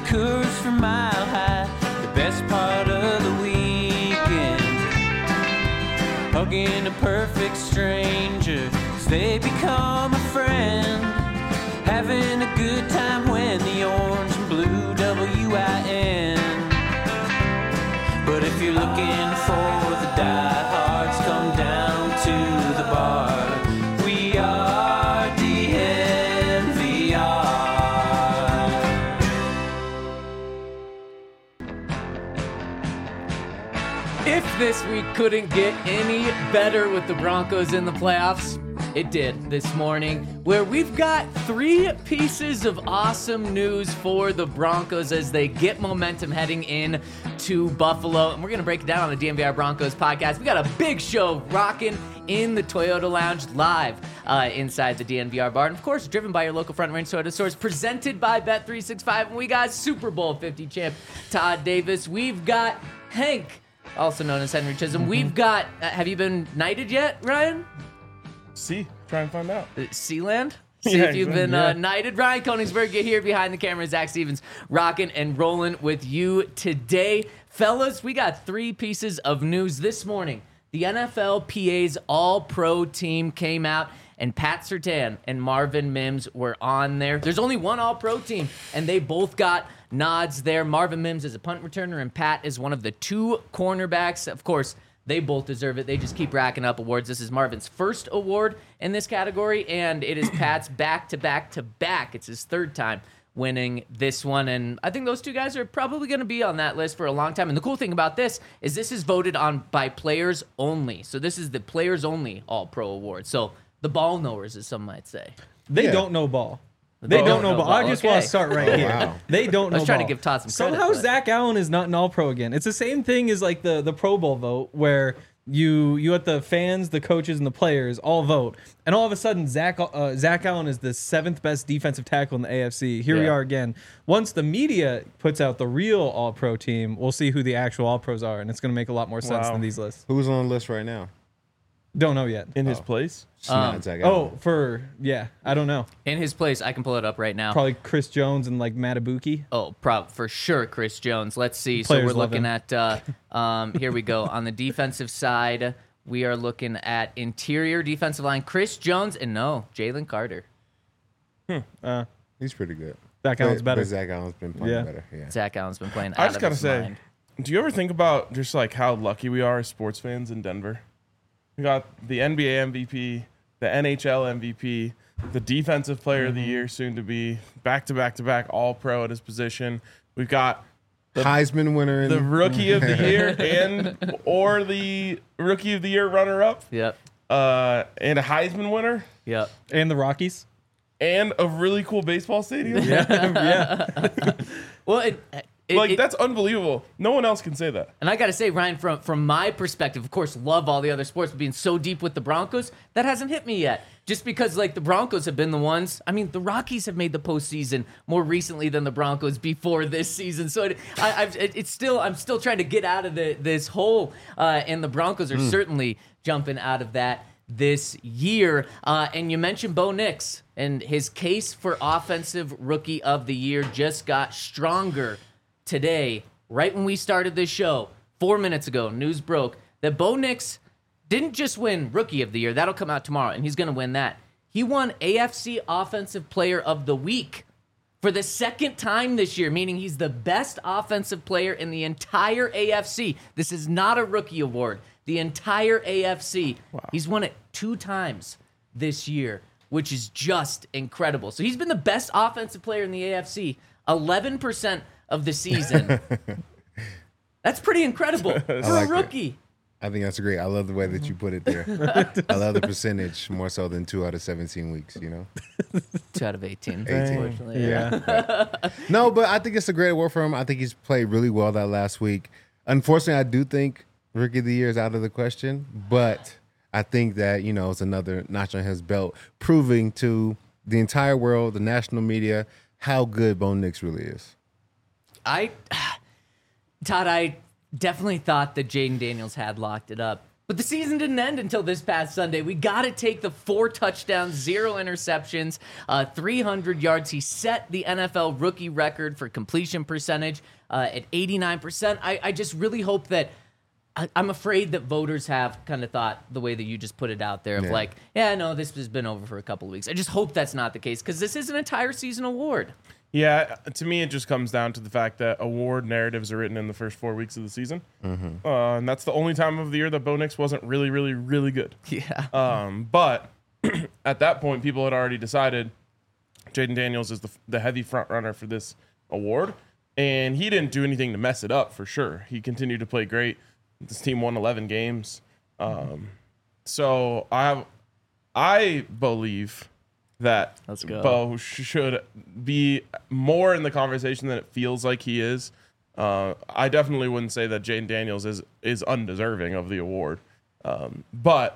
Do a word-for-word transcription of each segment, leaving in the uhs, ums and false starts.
Coors from Mile High, the best part of the weekend. Hugging a perfect stranger as they become a friend. Having a good time when the orange and blue W I N. But if you're looking for the diehards, come down to the bar. We are D N V R. If this week couldn't get any better with the Broncos in the playoffs, it did this morning, where we've got three pieces of awesome news for the Broncos as they get momentum heading in to Buffalo. And we're going to break it down on the D N V R Broncos podcast. We got a big show rocking in the Toyota Lounge live uh, inside the D N V R bar. And of course, driven by your local Front Range Toyota stores, presented by Bet three sixty-five. And we got Super Bowl fifty champ Todd Davis. We've got Hank, also known as Henry Chisholm. Mm-hmm. We've got, uh, have you been knighted yet, Ryan? See, try and find out. Uh, Sealand? See Yeah, if you've been yeah. uh, knighted. Ryan Koenigsberg, get here behind the camera. Zach Stevens rocking and rolling with you today. Fellas, we got three pieces of news this morning. The N F L P A's All-Pro team came out, and Pat Surtain and Marvin Mims were on there. There's only one All-Pro team, and they both got nods there. Marvin Mims is a punt returner, and Pat is one of the two cornerbacks. Of course, they both deserve it. They just keep racking up awards. This is Marvin's first award in this category, and it is Pat's back-to-back-to-back. It's his third time winning this one, and I think those two guys are probably going to be on that list for a long time. And the cool thing about this is this is voted on by players only. So this is the players-only All-Pro award. So the ball knowers, as some might say. They Yeah. don't know ball. They Oh, don't know no ball. ball. I just Okay. want to start right Oh, here. wow. They don't know I was trying ball. to give Todd some credit, Somehow but- Zach Allen is not an All-Pro again. It's the same thing as like the, the Pro Bowl vote where you you let the fans, the coaches, and the players all vote, and all of a sudden Zach uh, Zach Allen is the seventh best defensive tackle in the A F C. Here we Yeah. are again. Once the media puts out the real All-Pro team, we'll see who the actual All-Pros are, and it's going to make a lot more sense Wow. than these lists. Who's on the list right now? Don't know yet. In his Oh. place? It's Um, not Zach Allen. Oh, for yeah, I don't know. In his place, I can pull it up right now. Probably Chris Jones and like Matabuki. Oh, prob for sure, Chris Jones. Let's see. Players so we're love looking him. at. Uh, um, here we go on the defensive side. We are looking at interior defensive line. Chris Jones and no Jalen Carter. Uh, He's pretty good. Zach But- Allen's better. But Zach Allen's been playing Yeah. better. Yeah. Zach Allen's been playing. I out just of gotta his say, mind. do you ever think about just like how lucky we are as sports fans in Denver? We got the N B A M V P, the N H L M V P, the Defensive Player of the Year, soon to be back to back to back All Pro at his position. We've got Heisman winner. In, the Rookie of the Year and or the Rookie of the Year runner up, Yep. uh, and a Heisman winner, Yep. and the Rockies. and a really cool baseball stadium. yeah. Well, it, it, Like it- that's unbelievable. No one else can say that. And I got to say, Ryan, from from my perspective, of course, love all the other sports, but being so deep with the Broncos, that hasn't hit me yet. Just because, like, the Broncos have been the ones. I mean, the Rockies have made the postseason more recently than the Broncos before this season. So it, I, I've, it, it's still, I'm still trying to get out of the, this hole, uh, and the Broncos are certainly jumping out of that this year. Uh, and you mentioned Bo Nix, and his case for Offensive Rookie of the Year just got stronger today, right when we started this show, four minutes ago. News broke that Bo Nix didn't just win Rookie of the Year. That'll come out tomorrow, and he's going to win that. He won A F C Offensive Player of the Week for the second time this year, meaning he's the best offensive player in the entire A F C. This is not a rookie award. The entire A F C. Wow. He's won it two times this year, which is just incredible. So he's been the best offensive player in the A F C eleven percent of the season. That's pretty incredible for like a rookie. I think that's great. I love the way that you put it there. I love the percentage more so than two out of seventeen weeks, you know? Two out of eighteen, eighteen. unfortunately. Yeah. No, but I think it's a great award for him. I think he's played really well that last week. Unfortunately, I do think Rookie of the Year is out of the question, but I think that, you know, it's another notch on his belt, proving to the entire world, the national media, how good Bo Nix really is. I, Todd, I definitely thought that Jaden Daniels had locked it up. But the season didn't end until this past Sunday. We got to take the four touchdowns, zero interceptions, uh, three hundred yards. He set the N F L rookie record for completion percentage uh, at eighty-nine percent. I, I just really hope that I, I'm afraid that voters have kind of thought the way that you just put it out there of Yeah. like, yeah, no, this has been over for a couple of weeks. I just hope that's not the case because this is an entire season award. Yeah, to me, it just comes down to the fact that award narratives are written in the first four weeks of the season. Mm-hmm. Uh, and that's the only time of the year that Bo Nix wasn't really, really, really good. Yeah. Um, but at that point, people had already decided Jaden Daniels is the, the heavy front runner for this award. And he didn't do anything to mess it up, for sure. He continued to play great. This team won eleven games. Um, so I have, I believe that Let's go. Bo sh- should be more in the conversation than it feels like he is. Uh, I definitely wouldn't say that Jaden Daniels is is undeserving of the award, um, but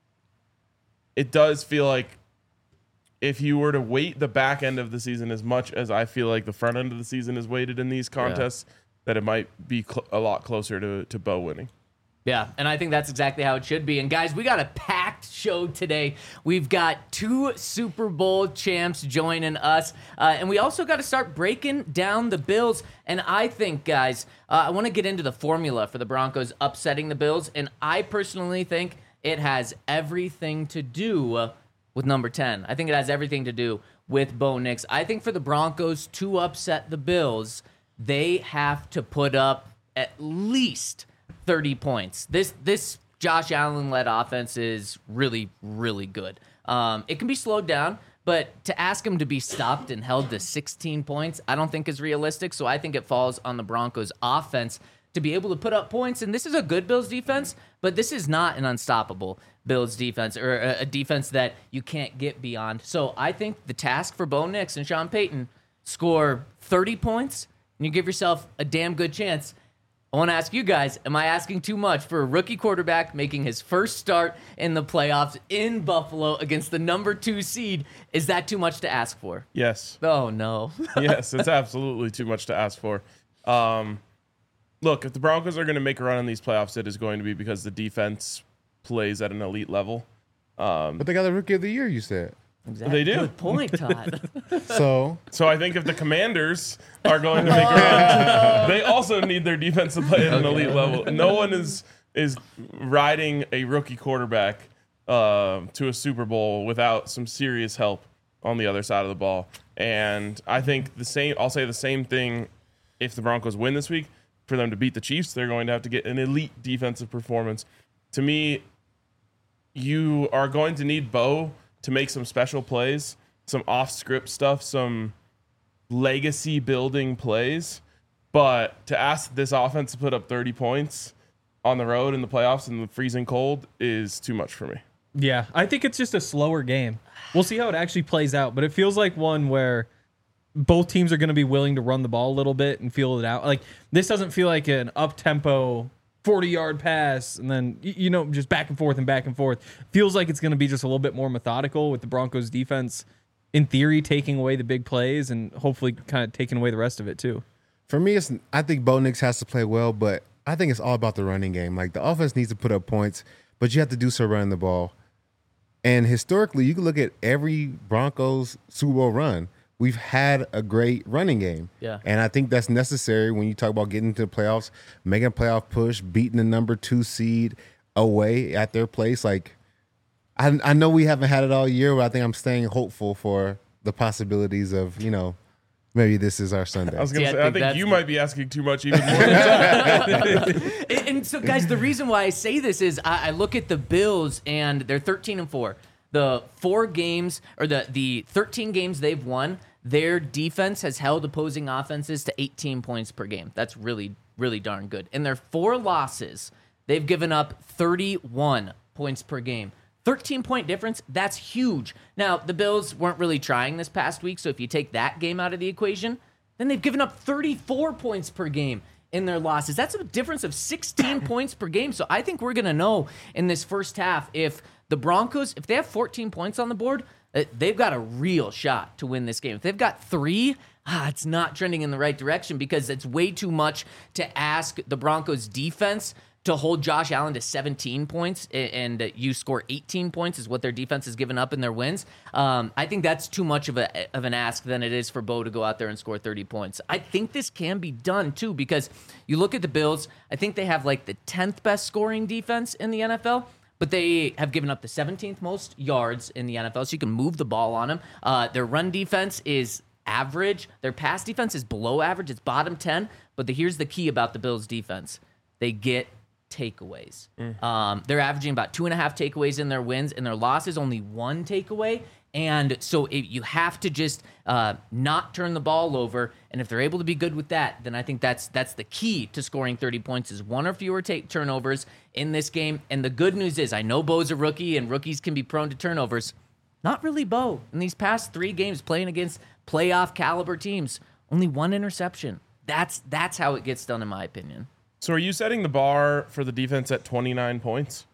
it does feel like if you were to weight the back end of the season as much as I feel like the front end of the season is weighted in these contests, that it might be cl- a lot closer to to Bo winning. Yeah, and I think that's exactly how it should be. And guys, we got a packed show today. We've got two Super Bowl champs joining us, uh, and we also got to start breaking down the Bills. And I think, guys, uh, I want to get into the formula for the Broncos upsetting the Bills, and I personally think it has everything to do with number ten. I think it has everything to do with Bo Nix. I think for the Broncos to upset the Bills, they have to put up at least thirty points. This this Josh Allen-led offense is really, really good. Um, it can be slowed down, but to ask him to be stopped and held to sixteen points, I don't think is realistic. So I think it falls on the Broncos offense to be able to put up points. And this is a good Bills defense, but this is not an unstoppable Bills defense or a, a defense that you can't get beyond. So I think the task for Bo Nix and Sean Payton, score thirty points, and you give yourself a damn good chance. I want to ask you guys, am I asking too much for a rookie quarterback making his first start in the playoffs in Buffalo against the number two seed? Is that too much to ask for? Yes. Oh, no. Yes, it's absolutely too much to ask for. Um, look, if the Broncos are going to make a run in these playoffs, it is going to be because the defense plays at an elite level. Um, But they got the rookie of the year, you said. Exactly. They do. Good point, Todd. So so I think if the Commanders are going to make a run, they also need their defense to play at an elite level. No one is is riding a rookie quarterback uh, to a Super Bowl without some serious help on the other side of the ball. And I think the same. I'll say the same thing if the Broncos win this week. For them to beat the Chiefs, they're going to have to get an elite defensive performance. To me, you are going to need Bo to make some special plays, some off-script stuff, some legacy building plays. But to ask this offense to put up thirty points on the road in the playoffs in the freezing cold is too much for me. Yeah, I think it's just a slower game. We'll see how it actually plays out, but it feels like one where both teams are going to be willing to run the ball a little bit and feel it out. Like, this doesn't feel like an up-tempo forty-yard pass and then, you know, just back and forth and back and forth. Feels like it's going to be just a little bit more methodical with the Broncos defense, in theory, taking away the big plays and hopefully kind of taking away the rest of it, too. for me, it's I think Bo Nix has to play well, but I think it's all about the running game. Like, the offense needs to put up points, but you have to do so running the ball. And historically, you can look at every Broncos Super Bowl run. We've had a great running game. Yeah. And I think that's necessary when you talk about getting to the playoffs, making a playoff push, beating the number two seed away at their place. Like, I, I know we haven't had it all year, but I think I'm staying hopeful for the possibilities of, you know, maybe this is our Sunday. I was gonna See, I say, I think think that's you the- might be asking too much even more. Than And, and so, guys, the reason why I say this is I, I look at the Bills and they're thirteen and four. The four games or the the thirteen games they've won, their defense has held opposing offenses to eighteen points per game. That's really, really darn good. In their four losses, they've given up thirty-one points per game. thirteen point difference, that's huge. Now, the Bills weren't really trying this past week, so if you take that game out of the equation, then they've given up thirty-four points per game in their losses. That's a difference of sixteen points per game. So I think we're going to know in this first half if the Broncos, if they have fourteen points on the board, uh, they've got a real shot to win this game. If they've got three, ah, it's not trending in the right direction because it's way too much to ask the Broncos defense to hold Josh Allen to seventeen points and uh, you score eighteen points is what their defense has given up in their wins. Um, I think that's too much of a of an ask than it is for Bo to go out there and score thirty points. I think this can be done too, because you look at the Bills. I think they have like the tenth best scoring defense in the N F L. But they have given up the seventeenth most yards in the N F L, so you can move the ball on them. Uh, their run defense is average. Their pass defense is below average. It's bottom ten. But the, here's the key about the Bills' defense. They get takeaways. Mm. Um, they're averaging about two and a half takeaways in their wins, and their losses only one takeaway. And so if you have to just uh, not turn the ball over, and if they're able to be good with that, then I think that's that's the key to scoring thirty points is one or fewer take turnovers in this game. And the good news is I know Bo's a rookie, and rookies can be prone to turnovers. Not really Bo. In these past three games playing against playoff caliber teams, only one interception. That's that's how it gets done, in my opinion. So are you setting the bar for the defense at twenty-nine points?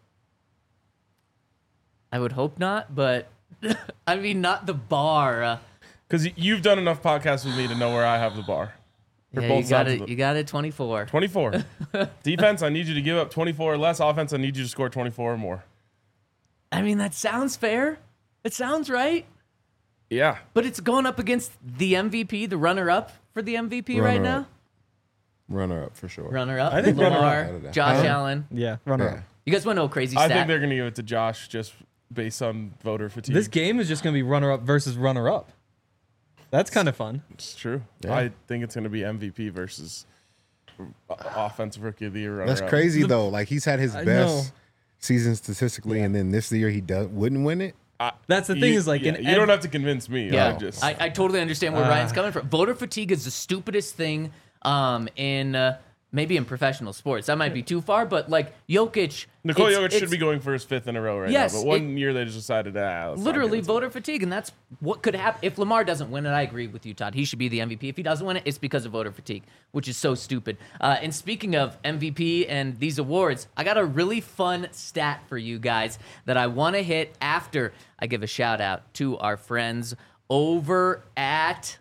I would hope not, but I mean, not the bar. Because uh, you've done enough podcasts with me to know where I have the bar. For yeah, both you got sides it. of the- You got it. twenty-four. twenty-four. Defense, I need you to give up twenty-four or less. Offense, I need you to score twenty-four or more. I mean, that sounds fair. It sounds right. Yeah. But it's going up against the M V P, the runner-up for the M V P right Runner-up. now. Runner up for sure. Runner-up. I think Lamar, runner-up. Josh Huh? Allen. Yeah, runner Yeah. up. You guys want to know a crazy I stat? think they're going to give it to Josh just based on voter fatigue. This game is just going to be runner up versus runner up. That's kind of fun. It's true. Yeah. I think it's going to be M V P versus offensive rookie of the year. That's runner-up. crazy though. Like he's had his I best know. season statistically, and then this year he does wouldn't win it. That's the thing You- is like yeah, in you ev- don't have to convince me. Yeah, I just I, I totally understand where Uh, Ryan's coming from. Voter fatigue is the stupidest thing um, in uh, maybe in professional sports. That might be too far, but like Jokic, Nikola it's- Jokic it's should be going for his fifth in a row right Yes, now. But one it- year they just decided, ah, let's not literally give it to voter fatigue, and that's what could happen if Lamar doesn't win it. I agree with you, Todd. He should be the M V P. If he doesn't win it, it's because of voter fatigue, which is so stupid. Uh, and speaking of M V P and these awards, I got a really fun stat for you guys that I want to hit after I give a shout out to our friends over at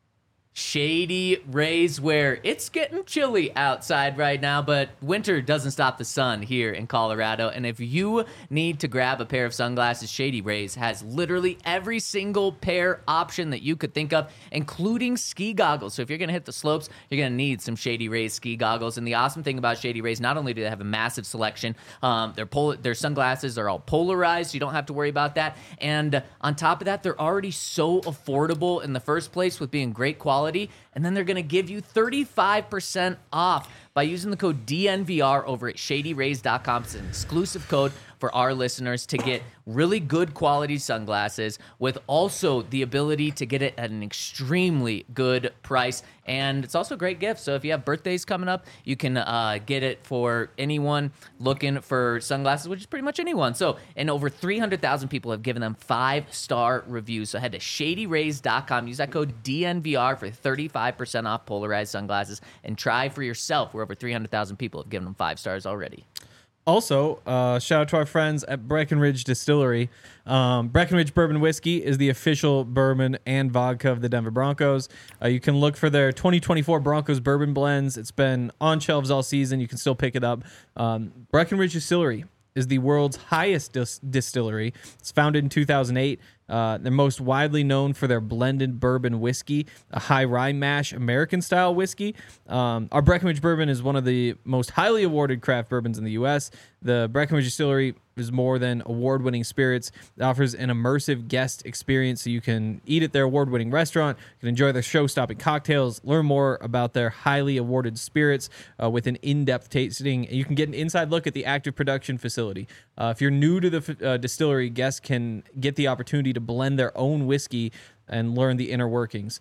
Shady Rays, where it's getting chilly outside right now, but winter doesn't stop the sun here in Colorado. And if you need to grab a pair of sunglasses, Shady Rays has literally every single pair option that you could think of, including ski goggles. So if you're going to hit the slopes, you're going to need some Shady Rays ski goggles. And the awesome thing about Shady Rays, not only do they have a massive selection, um, their, pol- their sunglasses are all polarized, so you don't have to worry about that. And on top of that, they're already so affordable in the first place with being great quality. And then they're going to give you thirty-five percent off by using the code D N V R over at shady rays dot com. It's an exclusive code for our listeners to get really good quality sunglasses with also the ability to get it at an extremely good price. And it's also a great gift. So if you have birthdays coming up, you can uh, get it for anyone looking for sunglasses, which is pretty much anyone. So, and over three hundred thousand people have given them five-star reviews. So head to shady rays dot com. Use that code D N V R for thirty-five percent off polarized sunglasses and try for yourself, where over three hundred thousand people have given them five stars already. Also, uh, shout out to our friends at Breckenridge Distillery. Um, Breckenridge Bourbon Whiskey is the official bourbon and vodka of the Denver Broncos. Uh, you can look for their twenty twenty-four Broncos bourbon blends. It's been on shelves all season. You can still pick it up. Um, Breckenridge Distillery is the world's highest dis- distillery. It's founded in two thousand eight. Uh, they're most widely known for their blended bourbon whiskey, a high rye mash American-style whiskey. Um, our Breckenridge bourbon is one of the most highly awarded craft bourbons in the U S. The Breckenridge Distillery is more than award-winning spirits. It offers an immersive guest experience, so you can eat at their award-winning restaurant, you can enjoy their show-stopping cocktails, learn more about their highly awarded spirits uh, with an in-depth tasting. You can get an inside look at the active production facility. Uh, if you're new to the uh, distillery, guests can get the opportunity to blend their own whiskey and learn the inner workings.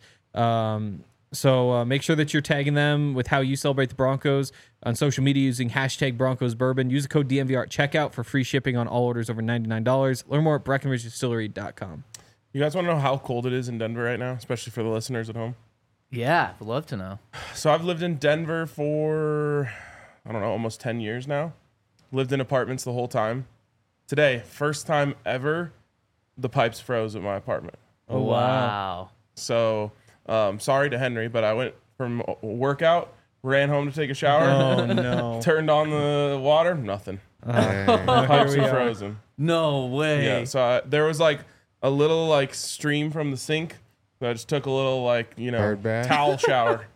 Um, so uh, make sure that you're tagging them with how you celebrate the Broncos on social media using hashtag Broncos Bourbon. Use the code D N V R at checkout for free shipping on all orders over ninety-nine dollars. Learn more at breckenridge distillery dot com. You guys want to know how cold it is in Denver right now, especially for the listeners at home? Yeah, I'd love to know. So I've lived in Denver for, I don't know, almost ten years now. Lived in apartments the whole time. Today, first time ever, the pipes froze at my apartment. Oh, wow. wow. So, um, sorry to Henry, but I went from a workout ran home to take a shower. Oh no. Turned on the water, nothing. Dang. Pipes we were are. frozen. No way. Yeah, so I, there was like a little like stream from the sink. So I just took a little like you know Bird bath? towel shower.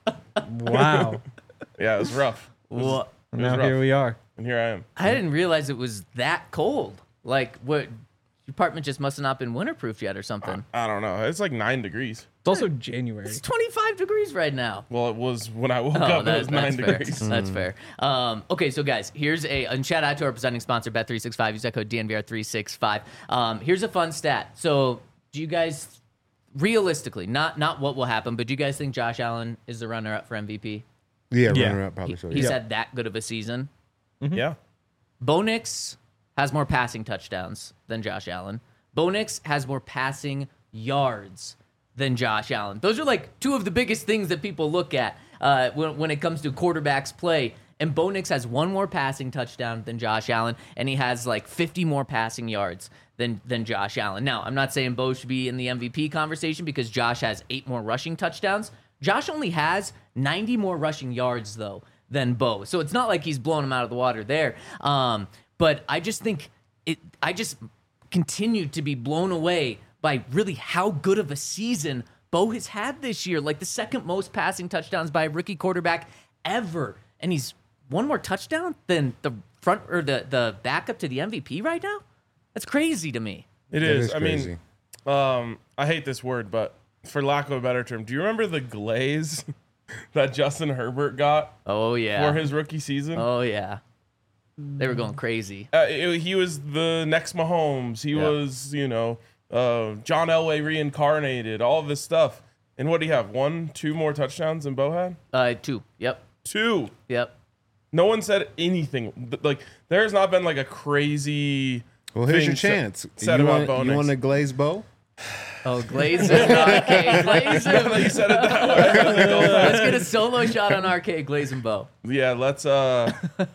Wow. Yeah, it was rough. It was- What? it was Now rough. here we are. And here I am. I didn't realize it was that cold. Like, what? Your apartment just must have not been winterproof yet or something. I don't know. It's like nine degrees. It's also January. It's twenty-five degrees right now. Well, it was when I woke Oh, up. It that- was nine that's fair. degrees. That's fair. Um, okay, so guys, here's a and shout out to our presenting sponsor, Bet three sixty-five. Use that code D N V R three sixty-five. Um, here's a fun stat. So, do you guys, realistically, not not what will happen, but do you guys think Josh Allen is the runner-up for M V P? Yeah, Yeah. runner up probably He- should. he's Yeah. had that good of a season. Yeah. Bo Nix has more passing touchdowns than Josh Allen. Bo Nix has more passing yards than Josh Allen. Those are like two of the biggest things that people look at uh, when, when it comes to quarterbacks play. And Bo Nix has one more passing touchdown than Josh Allen, and he has like fifty more passing yards than than Josh Allen. Now, I'm not saying Bo should be in the M V P conversation because Josh has eight more rushing touchdowns. Josh only has ninety more rushing yards, though, than Bo. So it's not like he's blowing him out of the water there. Um, but I just think it, I just continue to be blown away by really how good of a season Bo has had this year. Like the second most passing touchdowns by a rookie quarterback ever. And he's one more touchdown than the front or the, the backup to the M V P right now. That's crazy to me. It That is. is I crazy. mean, um, I hate this word, but for lack of a better term, do you remember the glaze that Justin Herbert got Oh, yeah. for his rookie season? Oh, yeah. They were going crazy. Uh, it- he was the next Mahomes. He Yeah. was, you know, uh, John Elway reincarnated, all of this stuff. And what do you have? One, two more touchdowns than Bo had? Uh, two. Yep. Two. Yep. No one said anything. Th- Like, there has not been like a crazy. Well, here's thing your sa- chance. Said you about want, Bo you Nix. want a glaze bow? Oh, Glazer. Okay, Glazer. You said it that way. Let's get a solo shot on Arcade Glaze and Bo. Yeah, let's. uh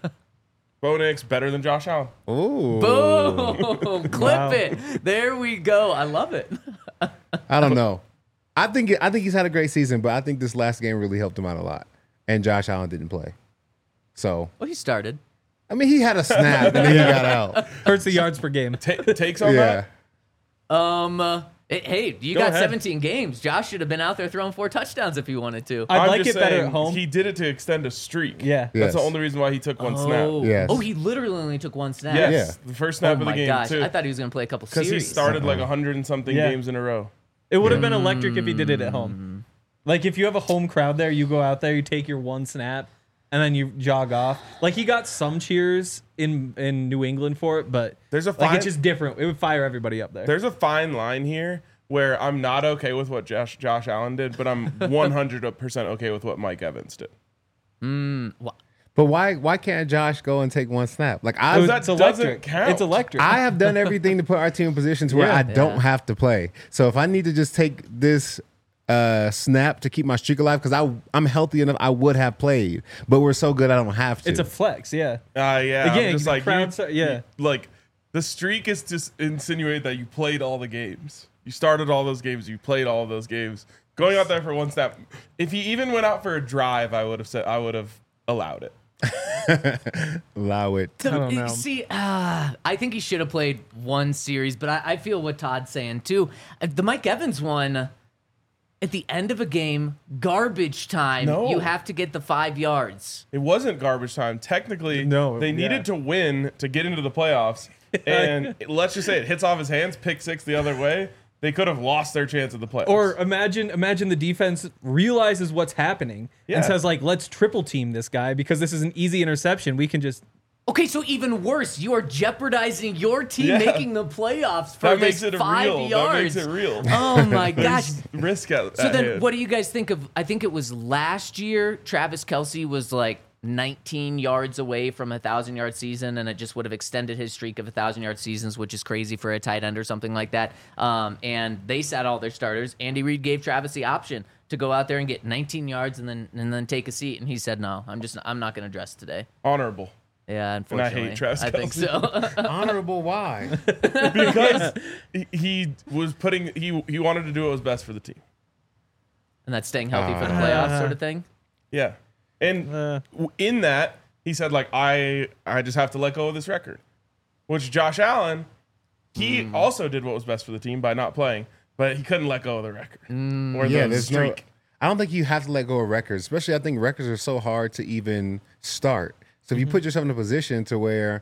Bo Nix better than Josh Allen. Ooh. Boom! Clip Wow. it. There we go. I love it. I don't know. I think I think he's had a great season, but I think this last game really helped him out a lot. And Josh Allen didn't play. So, Well, he started. I mean, he had a snap and then he got out. Hurts the yards per game. Ta takes on Yeah. that? Um. uh, it- hey, you Go got ahead. seventeen games. Josh should have been out there throwing four touchdowns if he wanted to. I'd I'm like just it better saying, at home. He did it to extend a streak. Yeah. That's Yes. the only reason why he took one oh. snap. Yes. Oh, he literally only took one snap. Yes, Yeah. the first snap Oh of my the game gosh! too. I thought he was gonna play a couple Because he series. started like a hundred and something Yeah. games in a row. It would have been electric if he did it at home. Like if you have a home crowd there, you go out there, you take your one snap, and then you jog off. Like he got some cheers in in New England for it, but There's a like fine- it's just different. It would fire everybody up there. There's a fine line here where I'm not okay with what Josh Josh Allen did, but I'm one hundred percent okay with what Mike Evans did. But why why can't Josh go and take one snap? Like I It was- that it's doesn't electric. count. It's electric. I have done everything to put our team in positions where Yeah. I don't Yeah. have to play. So if I need to just take this uh, snap to keep my streak alive, because I I'm healthy enough, I would have played. But we're so good, I don't have to. it's a flex, yeah. Uh, yeah, Again, I'm just the like crowd you- start- yeah. you- like the streak is just insinuate that you played all the games. You started all those games. You played all of those games. Going out there for one snap. If he even went out for a drive, I would have said I would have allowed it. Allow it. The- don't know. See, uh, I think he should have played one series, but I, I feel what Todd's saying too. Uh, The Mike Evans one, at the end of a game, garbage time, No. you have to get the five yards. It wasn't garbage time. Technically, No, they yeah. needed to win to get into the playoffs. And let's just say it hits off his hands, pick six the other way. They could have lost their chance at the playoffs. Or imagine imagine the defense realizes what's happening Yeah. and says like, let's triple team this guy because this is an easy interception. We can just Okay, so even worse, you are jeopardizing your team Yeah. making the playoffs for that this makes it five real. yards. That makes it real. Oh my gosh. There's risk at, So at then, hand. what do you guys think of? I think it was last year. Travis Kelce was like nineteen yards away from a thousand yard season, and it just would have extended his streak of a thousand yard seasons, which is crazy for a tight end or something like that. Um, and they sat all their starters. Andy Reid gave Travis the option to go out there and get nineteen yards and then and then take a seat, and he said, "No, I'm just I'm not going to dress today." Honorable. Yeah, I unfortunately, hate Travis I think Kelce. so. Honorable why? Because he, he was putting he he wanted to do what was best for the team. And that's staying healthy for the playoffs, sort of thing. Yeah. And Uh. w in that, he said, like, I I just have to let go of this record. Which Josh Allen, he Hmm. also did what was best for the team by not playing, but he couldn't let go of the record. Or Yeah, the there's no. streak. I don't think you have to let go of records, especially I think records are so hard to even start. So if you put yourself in a position to where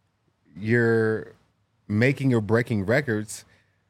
you're making or breaking records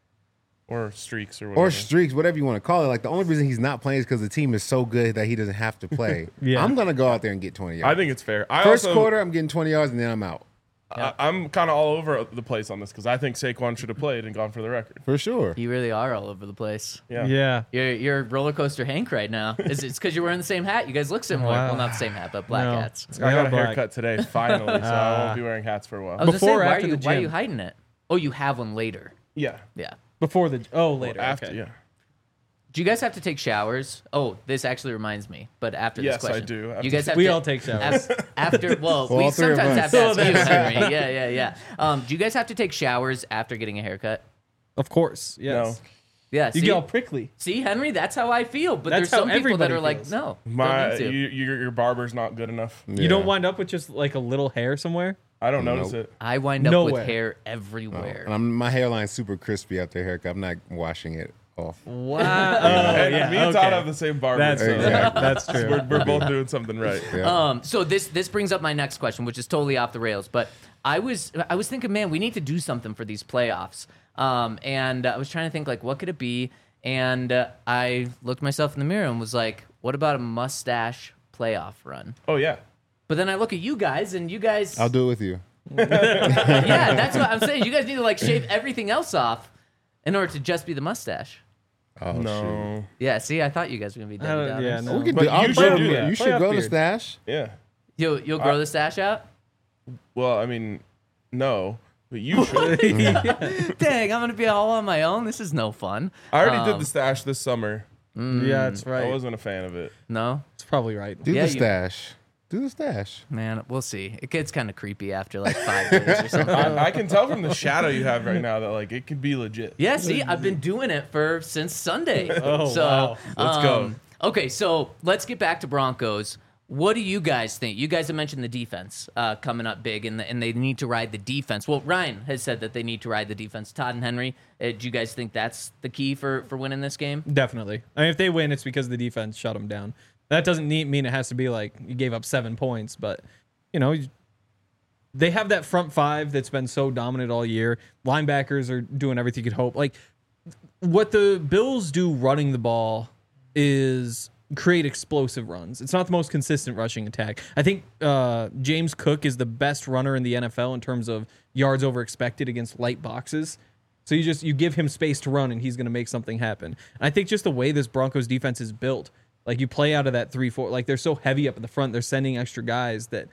Or streaks or whatever. or streaks, whatever you want to call it, like the only reason he's not playing is because the team is so good that he doesn't have to play. Yeah. I'm gonna go out there and get twenty yards. I think it's fair. I First also, quarter, I'm getting twenty yards and then I'm out I, I'm kind of all over the place on this because I think Saquon should have played and gone for the record. for sure. You really are all over the place. Yeah. Yeah. You're you're roller coaster Hank right now. Is it's because you're wearing the same hat? You guys look similar. Wow. Well, not the same hat, but black No. hats. I got Yeah, a black. haircut today, finally, so I won't be wearing hats for a while. I was Before or gonna say, why after are you the why are you gym? hiding it? Oh, you have one later. Yeah. Yeah. Before the oh later After, okay. yeah. Do you guys have to take showers? Oh, this actually reminds me. But after Yes, this I question, do. After- You guys have We to, all take showers. af- after. Well, Well, we all three of sometimes us. have to Oh, ask you, that's Henry. Yeah, yeah, yeah. Um, do you guys have to take showers after getting a haircut? Of course. Yes. Yeah. You see, get all prickly. see, Henry, that's how I feel. But That's there's some how people that everybody are like, feels. no, My, don't you, need to. your, your barber's not good enough. You don't Yeah. wind up with just like a little hair somewhere. I don't notice Nope. it. I wind up Nowhere. with hair everywhere. And I'm, my hairline's super crispy after a haircut. I'm not washing it off. Wow. and yeah, me and okay. Todd have the same barber. That's so Exactly. that's true. we're, we're both doing something right. Yeah. Um, so this this brings up my next question, which is totally off the rails. But I was I was thinking, man, we need to do something for these playoffs. Um, and I was trying to think, like, what could it be? And uh, I looked myself in the mirror and was like, what about a mustache playoff run? Oh, yeah. But then I look at you guys, and you guys, I'll do it with you. yeah, that's what I'm saying. You guys need to like shave everything else off in order to just be the mustache. Oh, shoot. No. Yeah, see, I thought you guys were gonna be I Debbie don't- yeah, Downers. no. We could But do. I'll you grow- should do that. You should Playoff grow the beard. stash. Yeah. You'll you'll grow the stash out. Well, I mean, no, but you should. Dang, I'm gonna be all on my own. This is no fun. I already Um, did the stash this summer. Yeah, that's right. I wasn't a fan of it. No, It's probably right. Do Yeah, the you- stash. Do the stash. man, we'll see. It gets kind of creepy after like five days or something. I, I can tell from the shadow you have right now that like it could be legit. Yeah, see, I've been doing it for since Sunday. Oh, so, wow. Let's go. um, Okay, so let's get back to Broncos. What do you guys think? You guys have mentioned the defense uh, coming up big, and, the, and they need to ride the defense. Well, Ryan has said that they need to ride the defense. Todd and Henry, uh, do you guys think that's the key for, for winning this game? Definitely. I mean, if they win, it's because the defense shut them down. That doesn't need, mean it has to be like you gave up seven points, but you know, you- they have that front five that's been so dominant all year. Linebackers are doing everything you could hope. Like what the Bills do running the ball is create explosive runs. It's not the most consistent rushing attack. I think uh, James Cook is the best runner in the N F L in terms of yards over expected against light boxes. So you just you give him space to run and he's going to make something happen. And I think just the way this Broncos defense is built, like you play out of that three four, like they're so heavy up in the front, they're sending extra guys that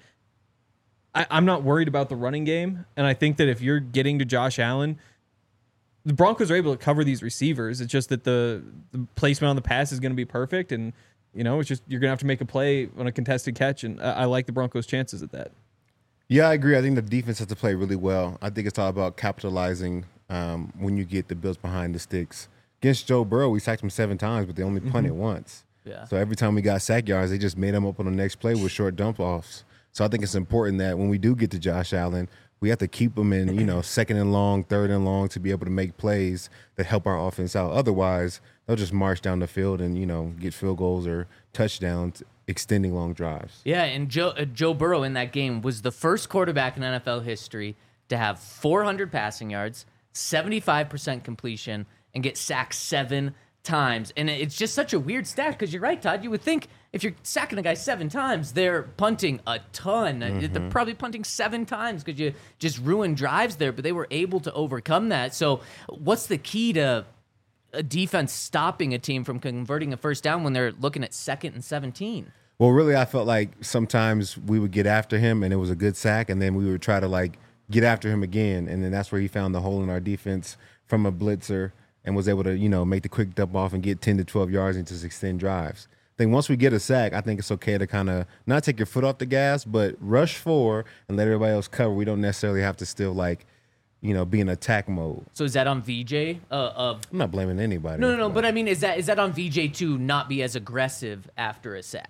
I, I'm not worried about the running game. And I think that if you're getting to Josh Allen, the Broncos are able to cover these receivers. It's just that the, the placement on the pass is going to be perfect, and you know it's just you're going to have to make a play on a contested catch. And I, I like the Broncos' chances at that. Yeah, I agree. I think the defense has to play really well. I think it's all about capitalizing um, when you get the Bills behind the sticks. Against Joe Burrow, we sacked him seven times, but they only punted once. Yeah. So every time we got sack yards, they just made them up on the next play with short dump offs. So I think it's important that when we do get to Josh Allen, we have to keep them in, you know, second and long, third and long to be able to make plays that help our offense out. Otherwise, they'll just march down the field and, you know, get field goals or touchdowns, extending long drives. Yeah, and Joe uh, Joe Burrow in that game was the first quarterback in N F L history to have four hundred passing yards, seventy-five percent completion, and get sacked seven times. And it's just such a weird stat because you're right, Todd. You would think if you're sacking a guy seven times, they're punting a ton. They're probably punting seven times because you just ruined drives there, but they were able to overcome that. So what's the key to a defense stopping a team from converting a first down when they're looking at second and seventeen? Well, really, I felt like sometimes we would get after him and it was a good sack, and then we would try to like get after him again, and then that's where he found the hole in our defense from a blitzer and was able to, you know, make the quick dump off and get ten to twelve yards into extend drives. I think once we get a sack, I think it's okay to kind of not take your foot off the gas, but rush forward and let everybody else cover. We don't necessarily have to still like, you know, be in attack mode. So is that on V J? Uh, of I'm not blaming anybody. no, no, no. But I mean, is that is that on V J to not be as aggressive after a sack?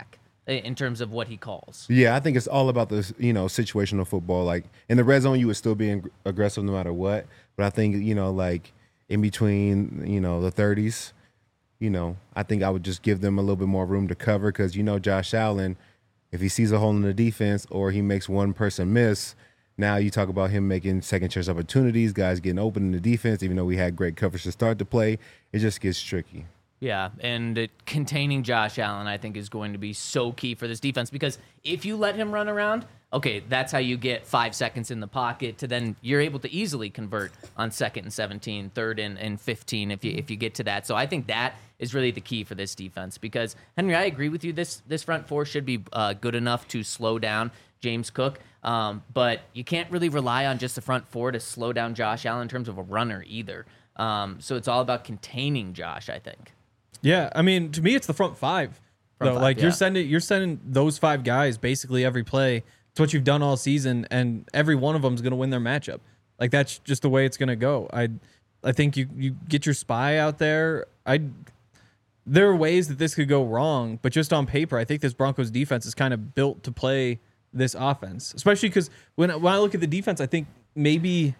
in terms of what he calls. Yeah, I think it's all about the you know situational football. Like in the red zone, you would still be ag- aggressive no matter what. But I think you know like in between you know the thirties, you know I think I would just give them a little bit more room to cover because you know Josh Allen, if he sees a hole in the defense or he makes one person miss, now you talk about him making second chance opportunities, guys getting open in the defense. Even though we had great coverage to start the play, it just gets tricky. Yeah, and it, containing Josh Allen, I think, is going to be so key for this defense because if you let him run around, okay, that's how you get five seconds in the pocket to then you're able to easily convert on second and seventeen, third and, and fifteen if you if you get to that. So I think that is really the key for this defense because, Henry, I agree with you. This, this front four should be uh, good enough to slow down James Cook, um, but you can't really rely on just the front four to slow down Josh Allen in terms of a runner either. Um, so it's all about containing Josh, I think. Yeah, I mean, to me, it's the front five. Front though. five, like yeah. you're sending, you're sending those five guys basically every play. It's what you've done all season, and every one of them is going to win their matchup. Like that's just the way it's going to go. I, I think you you get your spy out there. I, there are ways that this could go wrong, but just on paper, I think this Broncos defense is kind of built to play this offense. Especially because when when I look at the defense, I think maybe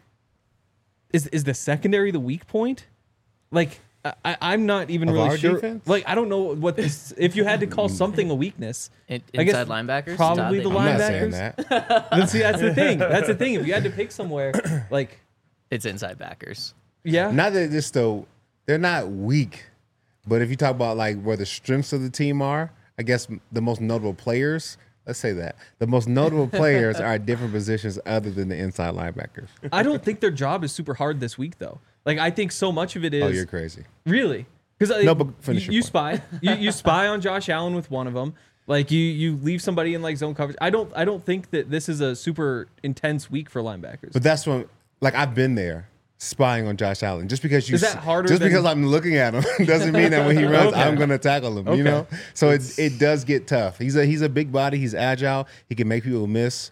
is is the secondary the weak point, like. I, I'm not even Of really our sure. defense? Like, I don't know what this. If you had to call something a weakness, In, I guess inside linebackers? probably Todd, the they- I'm not saying linebackers. that. Then see, that's the thing. That's the thing. If you had to pick somewhere, like, It's inside backers. yeah, Not that this though, they're not weak, but if you talk about like where the strengths of the team are, I guess the most notable players. Let's say that the most notable players are at different positions other than the inside linebackers. I don't think their job is super hard this week, though. Like, I think so much of it is Oh, you're crazy. really because No, but finish you, your you point. spy, you, you spy on Josh Allen with one of them. Like, you you leave somebody in like zone coverage. I don't I don't think that this is a super intense week for linebackers. But that's when, like, I've been there spying on Josh Allen. Just because you, Is that harder Just than- because I'm looking at him doesn't mean that when he runs, Okay. I'm going to tackle him. Okay. You know, so it it does get tough. He's a he's a big body. He's agile. He can make people miss.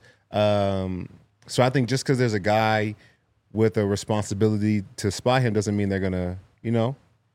Um, so I think just because there's a guy with a responsibility to spy him doesn't mean they're gonna, you know,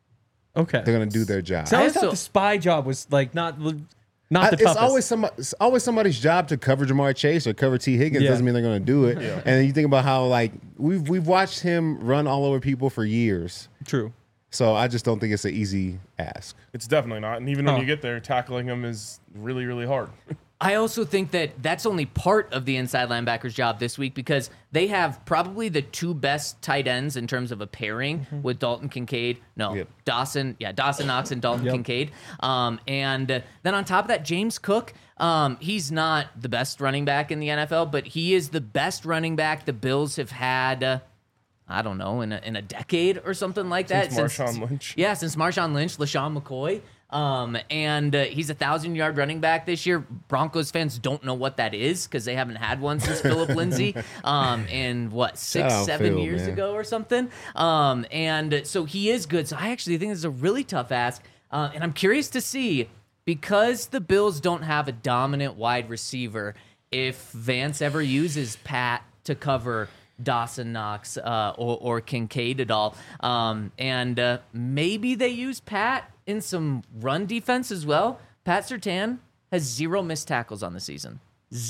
Okay, they're gonna do their job. So I always I thought also- the spy job was like not not the I- toughest. it's always some, it's always somebody's job to cover Jamar Chase or cover T. Higgins. Yeah. Doesn't mean they're going to do it. And then you think about how like we've we've watched him run all over people for years. True. So I just don't think it's an easy ask. It's definitely not. And even when Oh. you get there, tackling him is really, really hard. I also think that that's only part of the inside linebackers job this week because they have probably the two best tight ends in terms of a pairing with Dalton Kincaid. No, Yep. Dawson. Yeah, Dawson Knox and Dalton Yep. Kincaid. Um, and uh, then on top of that, James Cook. Um, he's not the best running back in the N F L, but he is the best running back the Bills have had. Uh, I don't know, in a, in a decade or something like that. Since Marshawn Lynch. Yeah, since Marshawn Lynch, LaShawn McCoy. Um, and uh, he's a thousand-yard running back this year. Broncos fans don't know what that is because they haven't had one since Philip Lindsay um, in, what, six, Shout out seven Phil, years man. ago or something. Um, and so he is good. So I actually think this is a really tough ask. Uh, and I'm curious to see, because the Bills don't have a dominant wide receiver, if Vance ever uses Pat to cover Dawson Knox uh, or, or Kincaid at all. Um, and uh, maybe they use Pat in some run defense as well. Pat Surtain has zero missed tackles on the season.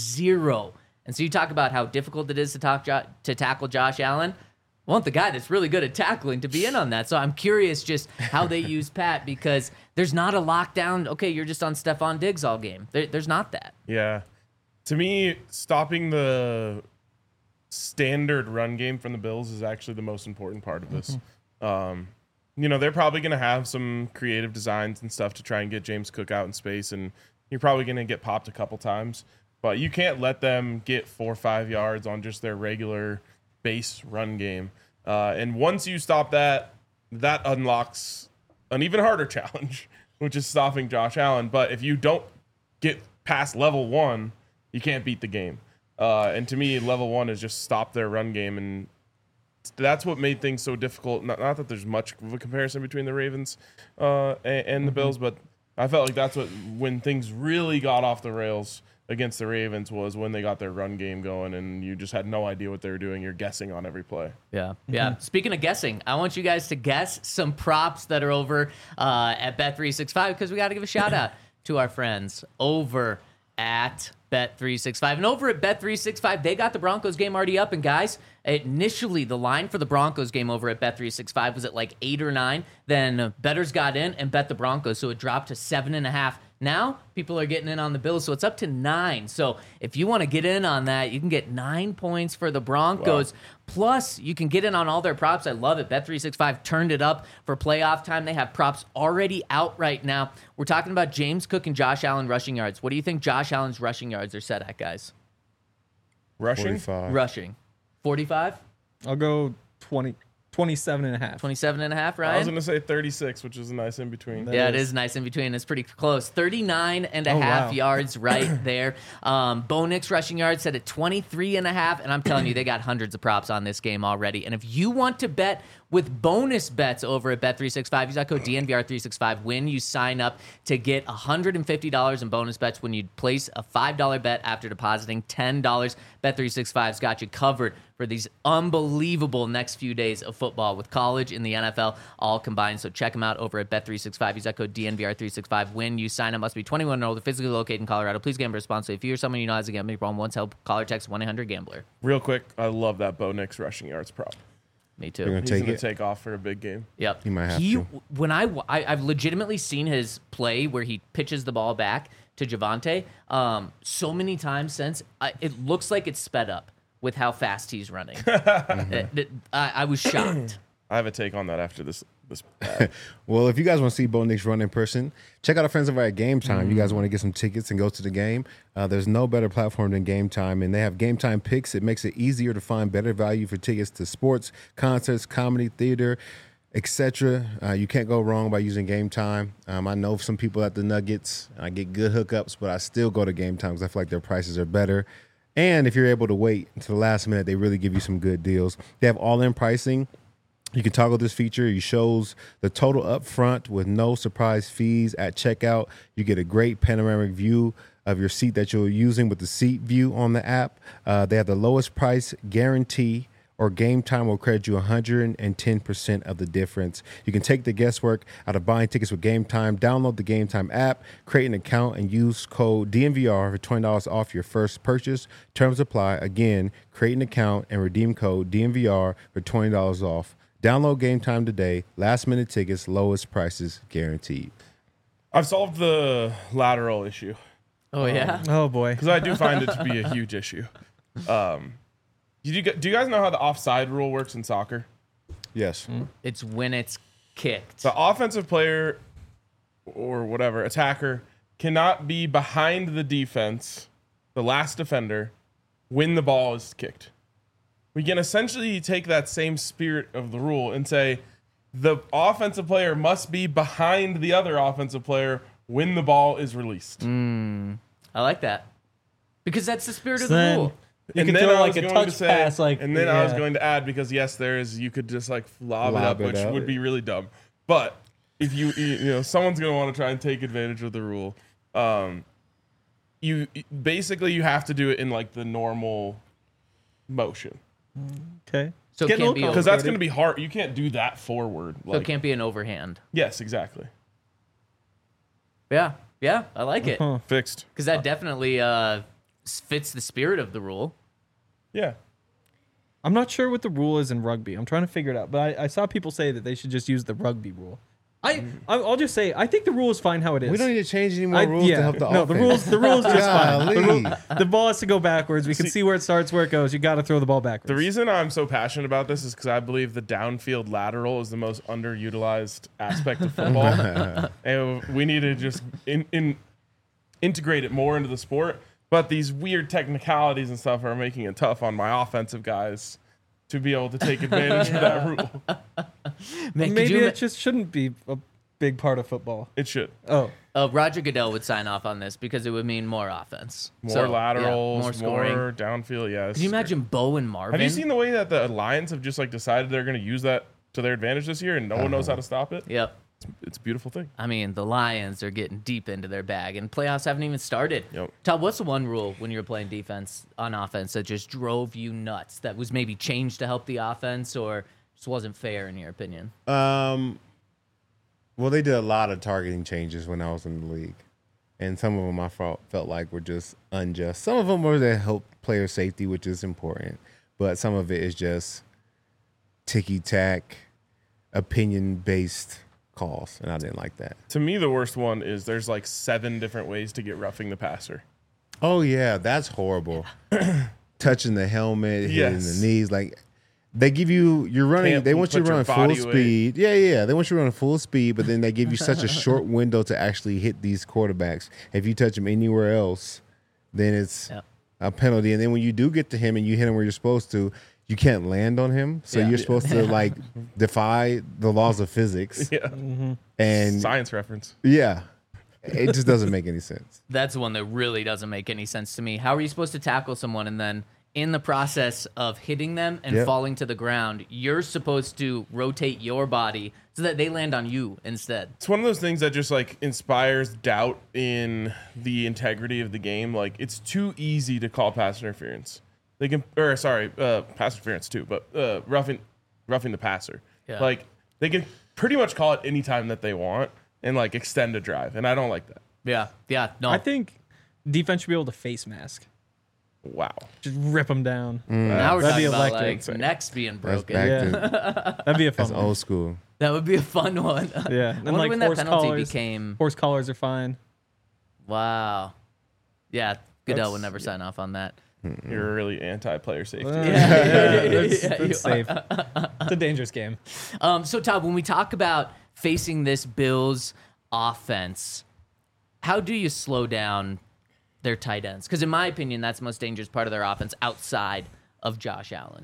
Zero. And so you talk about how difficult it is to, talk jo- to tackle Josh Allen. I want the guy that's really good at tackling to be in on that. So I'm curious just how they use Pat because there's not a lockdown, okay, you're just on Stephon Diggs all game. There, there's not that. Yeah. To me, stopping the standard run game from the Bills is actually the most important part of this. Um, you know, they're probably going to have some creative designs and stuff to try and get James Cook out in space, and you're probably going to get popped a couple times. But you can't let them get four or five yards on just their regular base run game. Uh, and once you stop that, that unlocks an even harder challenge, which is stopping Josh Allen. But if you don't get past level one, you can't beat the game. Uh, and to me, level one is just stop their run game. And that's what made things so difficult. Not, not that there's much of a comparison between the Ravens uh, and, and the Bills, but I felt like that's what when things really got off the rails against the Ravens was when they got their run game going and you just had no idea what they were doing. You're guessing on every play. Yeah. Yeah. Speaking of guessing, I want you guys to guess some props that are over uh, at Bet three sixty-five because we got to give a shout out to our friends over at Bet three sixty-five. And over at Bet three sixty-five, they got the Broncos game already up. And guys, initially the line for the Broncos game over at Bet three sixty-five was at like eight or nine. Then bettors got in and bet the Broncos, so it dropped to seven and a half. Now people are getting in on the Bills, so it's up to nine. So if you want to get in on that, you can get nine points for the Broncos. Wow. Plus, you can get in on all their props. I love it. Bet three sixty-five turned it up for playoff time. They have props already out right now. We're talking about James Cook and Josh Allen rushing yards. What do you think Josh Allen's rushing yards are set at, guys? Rushing? forty-five. Rushing. forty-five? I'll go twenty, twenty-seven and a half. twenty-seven and a half, Ryan? I was going to say thirty-six, which is a nice in between. Yeah, it is nice in between. It's pretty close. thirty-nine and a Oh, half wow. yards right there. Um, Bo Nix rushing yards set at twenty-three and a half. And I'm telling you, they got hundreds of props on this game already. And if you want to bet with bonus bets over at Bet three sixty-five, use that code D N V R three sixty-five when you sign up to get one hundred fifty dollars in bonus bets when you place a five dollar bet after depositing ten dollars. Bet three sixty-five's got you covered for these unbelievable next few days of football with college and the N F L all combined. So check them out over at Bet three sixty-five. Use that code D N V R three sixty-five when you sign up. Must be twenty-one and older, physically located in Colorado. Please gamble responsibly. If you or someone you know has a gambling problem, once help, call or text one eight hundred gambler. Real quick, I love that Bo Nix rushing yards prop. Me You're too. gonna He's take going to it. take off for a big game. Yep. He might have he, to. When I, I, I've legitimately seen his play where he pitches the ball back to Javonte um, so many times since. I, it looks like it's sped up with how fast he's running. It- it- I, I was shocked. I have a take on that after this. this Well, if you guys want to see Bo Nix run in person, check out our friends over at Game Time. You guys want to get some tickets and go to the game? Uh, there's no better platform than Game Time, and they have Game Time picks. It makes it easier to find better value for tickets to sports, concerts, comedy, theater, et cetera. Uh, you can't go wrong by using Game Time. Um, I know some people at the Nuggets. I get good hookups, but I still go to Game Time because I feel like their prices are better. And if you're able to wait until the last minute, they really give you some good deals. They have all-in pricing. You can toggle this feature. It shows the total up front with no surprise fees at checkout. You get a great panoramic view of your seat that you're using with the seat view on the app. Uh, they have the lowest price guarantee, or Game Time will credit you one hundred ten percent of the difference. You can take the guesswork out of buying tickets with Game Time. Download the Game Time app, create an account, and use code D N V R for twenty dollars off your first purchase. Terms apply. Again, create an account and redeem code D N V R for twenty dollars off. Download Game Time today. Last minute tickets, lowest prices guaranteed. I've solved the lateral issue Oh, yeah? Oh boy. because I do find it to be a huge issue. Um, do you, do you guys know how the offside rule works in soccer? Yes. It's when it's kicked. The offensive player or whatever, attacker, cannot be behind the defense, the last defender, when the ball is kicked. We can essentially take that same spirit of the rule and say the offensive player must be behind the other offensive player when the ball is released. I like that. Because that's the spirit of So the then- rule. You and could then throw I like was a going touch to say, pass, like, and then I was yeah. going to add, because yes, there is, you could just like lob, Lob it up, it which up. would be really dumb. But if you, you you know, someone's going to want to try and take advantage of the rule. Um, you basically you have to do it in like the normal motion, Okay. So it Getting a can't little be because that's complicated. going to be hard. You can't do that forward. So Like, it can't be an overhand. yes, exactly. Yeah. Yeah. I like it. Huh. Fixed. Because that definitely uh, s- fits the spirit of the rule. Yeah. I'm not sure what the rule is in rugby. I'm trying to figure it out, but I, I saw people say that they should just use the rugby rule. I I'll just say I think the rule is fine how it is. We don't need to change any more I- rules yeah, to help the no, offense. the rules the rules just fine. The, Golly. rule- the ball has to go backwards. We can see, where it starts, where it goes. You got to throw the ball backwards. The reason I'm so passionate about this is because I believe the downfield lateral is the most underutilized aspect of football, and we need to just in, in integrate it more into the sport. But these weird technicalities and stuff are making it tough on my offensive guys to be able to take advantage of that rule. Man, could Maybe you it just shouldn't be a big part of football. It should. Oh, uh, Roger Goodell would sign off on this because it would mean more offense. More So, yeah, laterals, more scoring. more downfield. Yeah. this Can you is great. imagine Bo and Marvin? Have you seen the way that the Lions have just like decided they're going to use that to their advantage this year, and no one knows how to stop it? Yep. It's a beautiful thing. I mean, the Lions are getting deep into their bag, and playoffs haven't even started. Yep. Todd, what's the one rule when you were playing defense on offense that just drove you nuts? That was maybe changed to help the offense, or just wasn't fair in your opinion? Um, well, they did a lot of targeting changes when I was in the league, and some of them I felt, felt like were just unjust. Some of them were to help player safety, which is important, but some of it is just ticky-tack, opinion-based calls, and I didn't like that. To me, the worst one is there's like seven different ways to get roughing the passer. Oh, yeah, that's horrible. Touching the helmet, hitting Yes. the knees, like they give you you're running. Can't they want you put to your run full body weight. speed. Yeah, yeah. They want you to run full speed, but then they give you such a short window to actually hit these quarterbacks. If you touch them anywhere else, then it's Yep. a penalty. And then when you do get to him and you hit him where you're supposed to, you can't land on him. So Yeah. you're supposed to like defy the laws of physics. Yeah. And Science reference. yeah, it just doesn't make any sense. That's one that really doesn't make any sense to me. How are you supposed to tackle someone and then in the process of hitting them and Yep. falling to the ground, you're supposed to rotate your body so that they land on you instead? It's one of those things that just like inspires doubt in the integrity of the game. Like it's too easy to call pass interference. They can, or sorry, uh, pass interference too, but uh, roughing, roughing the passer. Yeah. Like they can pretty much call it any time that they want and like extend a drive, and I don't like that. Yeah, yeah, no. I think defense should be able to face mask. Wow. Just rip them down. now we're That'd talking be about electric. like necks being That's broken. back Yeah. to That'd be a fun that's one. old school. That would be a fun one. Yeah. I And wonder like when that horse penalty collars, became. horse collars are fine. Wow. Yeah, Goodell That's- would never sign off on that. You're really anti-player safety. Yeah, Yeah, that's, yeah, that's you safe. It's a dangerous game. Um, so, Todd, when we talk about facing this Bills offense, how do you slow down their tight ends? Because in my opinion, that's the most dangerous part of their offense outside of Josh Allen.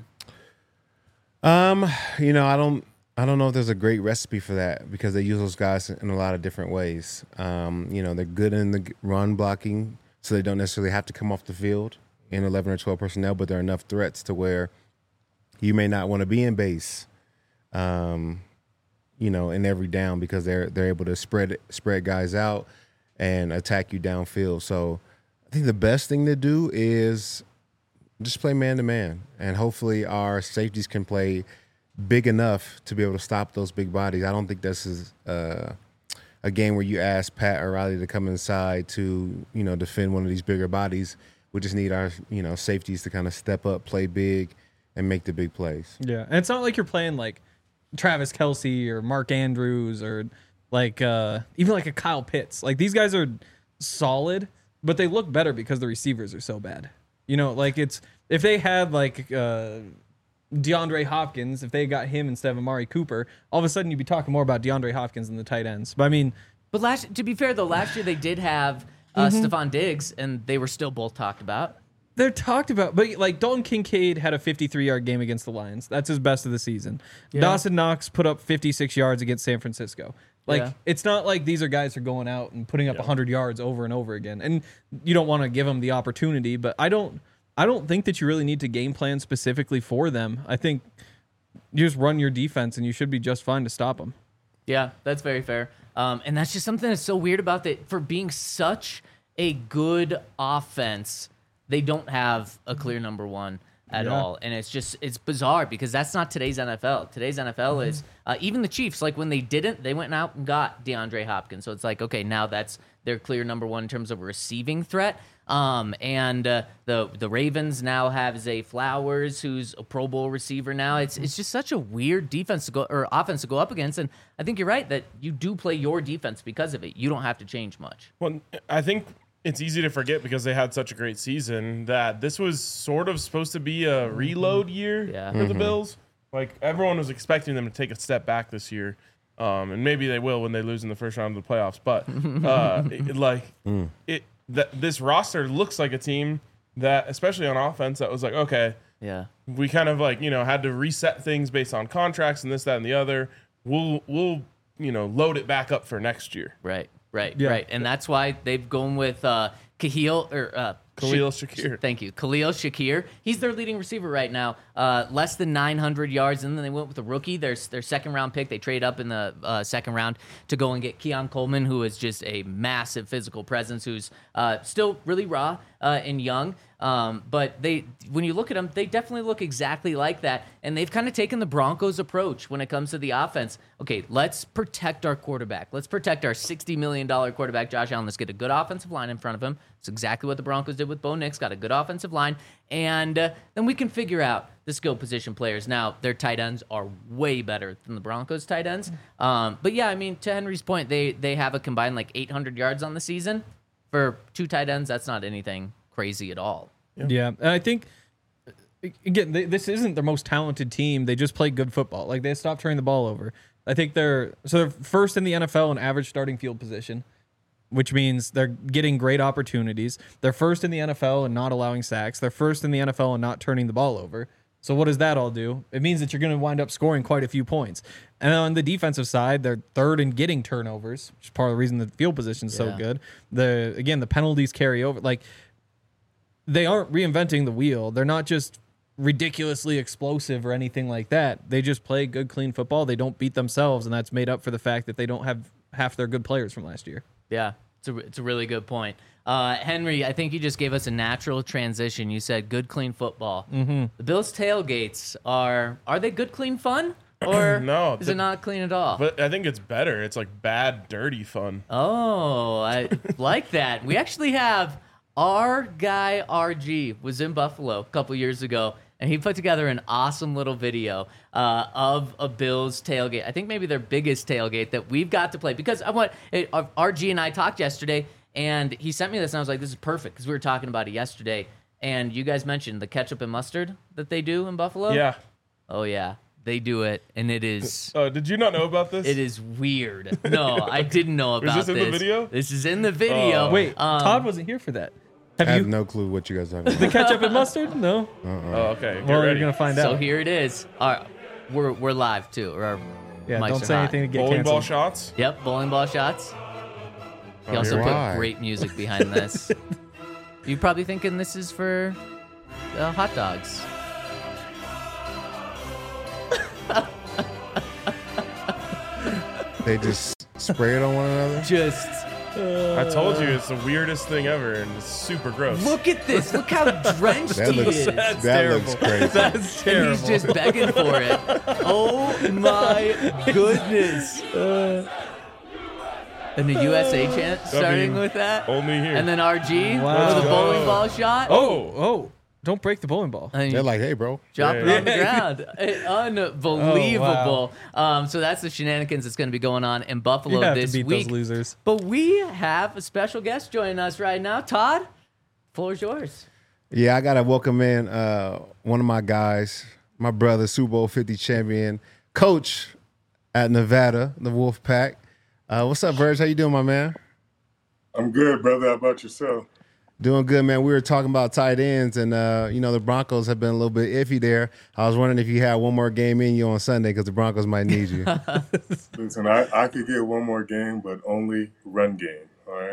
Um, you know, I don't, I don't know if there's a great recipe for that because they use those guys in a lot of different ways. Um, you know, they're good in the run blocking, so they don't necessarily have to come off the field in eleven or twelve personnel, but there are enough threats to where you may not want to be in base. Um, you know, in every down because they're they're able to spread spread guys out and attack you downfield. So, I think the best thing to do is just play man to man, and hopefully our safeties can play big enough to be able to stop those big bodies. I don't think this is uh, a game where you ask Pat or Riley to come inside to, you know, defend one of these bigger bodies. We just need our, you know, safeties to kind of step up, play big, and make the big plays. Yeah. And it's not like you're playing like Travis Kelce or Mark Andrews or like uh, even like a Kyle Pitts. Like these guys are solid, but they look better because the receivers are so bad. You know, like it's if they had like uh, DeAndre Hopkins, if they got him instead of Amari Cooper, all of a sudden you'd be talking more about DeAndre Hopkins than the tight ends. But I mean, But last, to be fair, though, last year they did have uh, Stephon Diggs, and they were still both talked about. they're talked about, but like Dalton Kincaid had a fifty-three yard game against the Lions. That's his best of the season. Dawson Knox put up fifty-six yards against San Francisco. Like Yeah. it's not like these are guys who are going out and putting up one hundred yards over and over again. And you don't want to give them the opportunity, but I don't I don't think that you really need to game plan specifically for them. I think you just run your defense and you should be just fine to stop them. Yeah, that's very fair. Um, and that's just something that's so weird about that. For being such a good offense, they don't have a clear number one at Yeah. all. And it's just, it's bizarre because that's not today's N F L. Today's N F L is, uh, even the Chiefs, like when they didn't, they went out and got DeAndre Hopkins. So it's like, okay, now that's their clear number one in terms of a receiving threat. Um, and uh, the the Ravens now have Zay Flowers, who's a Pro Bowl receiver now. It's it's just such a weird defense to go or offense to go up against. And I think you're right that you do play your defense because of it. You don't have to change much. Well, I think it's easy to forget because they had such a great season that this was sort of supposed to be a reload year Yeah. for the Bills. Like everyone was expecting them to take a step back this year, um, and maybe they will when they lose in the first round of the playoffs. But uh, it, like it, that this roster looks like a team that, especially on offense, that was like, okay, Yeah. we kind of like you know had to reset things based on contracts and this, that, and the other. We'll we'll you know load it back up for next year. Right, right, Yeah. right. And that's why they've gone with uh, Kahil or uh, Khalil Shakir. Thank you. Khalil Shakir. He's their leading receiver right now. Uh, less than nine hundred yards. And then they went with a rookie, their, their second round pick. They trade up in the uh, second round to go and get Keon Coleman, who is just a massive physical presence, who's uh, still really raw uh, and young. Um, but they, when you look at them, they definitely look exactly like that. And they've kind of taken the Broncos approach when it comes to the offense. Okay, let's protect our quarterback. Let's protect our sixty million dollars quarterback, Josh Allen. Let's get a good offensive line in front of him. It's exactly what the Broncos did with Bo Nix. Got a good offensive line. And uh, then we can figure out the skill position players. Now, their tight ends are way better than the Broncos' tight ends. Um, but yeah, I mean, to Henry's point, they, they have a combined like eight hundred yards on the season. For two tight ends, that's not anything crazy at all. Yeah, yeah. And I think again, they, this isn't their most talented team. They just play good football. Like they stopped turning the ball over. I think they're so they're first in the N F L in average starting field position, which means they're getting great opportunities. They're first in the N F L in not allowing sacks. They're first in the N F L in not turning the ball over. So what does that all do? It means that you're going to wind up scoring quite a few points. And on the defensive side, they're third in getting turnovers, which is part of the reason the field position is so Yeah. good. The again, the penalties carry over. Like they aren't reinventing the wheel. They're not just ridiculously explosive or anything like that. They just play good, clean football. They don't beat themselves, and that's made up for the fact that they don't have half their good players from last year. Yeah, it's a, it's a really good point. Uh, Henry, I think you just gave us a natural transition. You said good, clean football. Mm-hmm. The Bills' tailgates are, are they good, clean fun? Or No, is the- it not clean at all? But I think it's better. It's like bad, dirty fun. Oh, I like that. We actually have our guy R G was in Buffalo a couple years ago, and he put together an awesome little video uh, of a Bills tailgate. I think maybe their biggest tailgate that we've got to play because I want it, uh, R G and I talked yesterday, and he sent me this, and I was like, "This is perfect," because we were talking about it yesterday. And you guys mentioned the ketchup and mustard that they do in Buffalo. Yeah. Oh yeah, they do it, and it is. Oh, did you not know about this? It is weird. No, I didn't know about this in the video? This is in the video. Oh. Wait, Um, Todd wasn't here for that. Have I have you no clue what you guys are talking the about. ketchup and mustard? No. Oh, okay. Get Well, ready. you're gonna find So out. here it is. All right, we're we're live too. Or our Yeah, mics don't are say hot. anything to get Bowling ball canceled. shots. Yep, bowling ball shots. He Oh, also here put we are. great music behind this. You're probably thinking this is for uh, hot dogs. They just spray it on one another. Just I told you it's the weirdest thing ever, and it's super gross. look at this. Look how drenched That he looks is. That's that terrible. looks crazy. That's And terrible. he's just begging for it. Oh my goodness. And the U S A chant starting mean, with that. Only here. And then R G Wow. with a bowling Go. ball shot. oh, oh! Don't break the bowling ball. And They're like, hey, bro. drop it Yeah. on the ground. Eh, Unbelievable. um, so that's the shenanigans that's going to be going on in Buffalo You have this to beat week. those losers. But we have a special guest joining us right now. Todd, floor's yours. Yeah, I gotta welcome in uh, one of my guys, my brother, Super Bowl fifty champion, coach at Nevada, the Wolf Pack. Uh, what's up, Verge? How you doing, my man? I'm good, brother. How about yourself? Doing good, man. We were talking about tight ends, and uh, you know the Broncos have been a little bit iffy there. I was wondering if you had one more game in you on Sunday because the Broncos might need you. Listen, I, I could get one more game, but only run game. All right.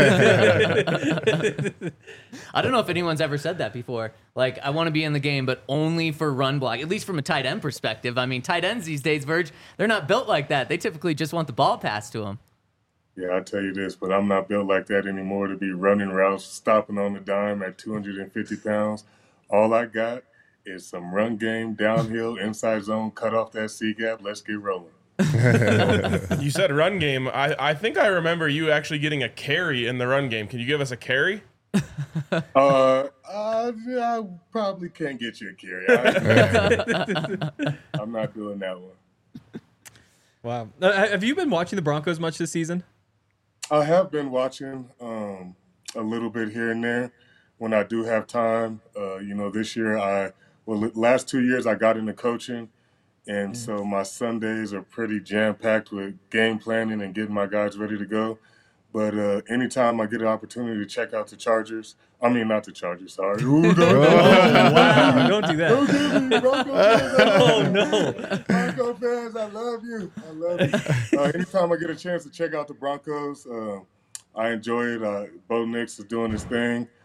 I don't know if anyone's ever said that before. Like, I want to be in the game, but only for run block, at least from a tight end perspective. I mean, tight ends these days, Verge, they're not built like that. They typically just want the ball passed to them. Yeah, I tell you this, but I'm not built like that anymore to be running routes, stopping on the dime at two hundred fifty pounds. All I got is some run game, downhill, inside zone, cut off that C gap. Let's get rolling. You said run game. I, I think I remember you actually getting a carry in the run game. Can you give us a carry? Uh, uh I probably can't get you a carry. I, I'm not doing that one. Wow. Uh, have you been watching the Broncos much this season? I have been watching um, a little bit here and there when I do have time. Uh, you know, this year I, well, the last two years I got into coaching, and so my Sundays are pretty jam-packed with game planning and getting my guys ready to go. But uh, anytime I get an opportunity to check out the Chargers, I mean, not the Chargers, sorry. Ooh, don't, Wow! Don't do don't that. give me Bronco fans. I love Oh you. no! Bronco fans, I love you. I love you. Uh, anytime I get a chance to check out the Broncos, uh, I enjoy it. Uh, Bo Nix is doing his thing.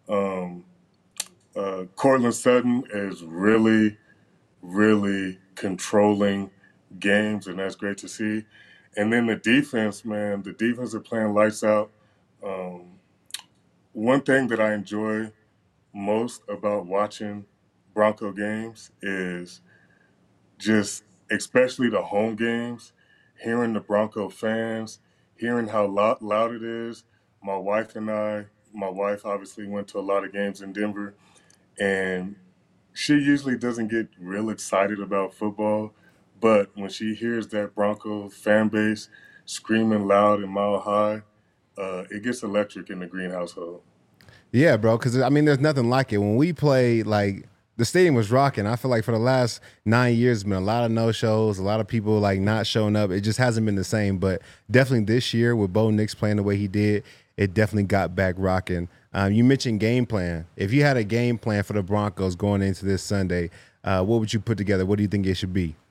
Um, uh, Cortland Sutton is really, really controlling games, and that's great to see. And then the defense, man, the defense are playing lights out. Um, one thing that I enjoy most about watching Bronco games is just, especially the home games, hearing the Bronco fans, hearing how loud, loud it is. My wife and I, my wife obviously went to a lot of games in Denver, and she usually doesn't get real excited about football, but when she hears that Bronco fan base screaming loud and mile high, uh, it gets electric in the Green household. Yeah, bro. Because I mean, there's nothing like it. When we played, like the stadium was rocking. I feel like for the last nine years, been a lot of no shows, a lot of people like not showing up. It just hasn't been the same. But definitely this year, with Bo Nix playing the way he did, it definitely got back rocking. Um, you mentioned game plan. If you had a game plan for the Broncos going into this Sunday, uh, what would you put together? What do you think it should be?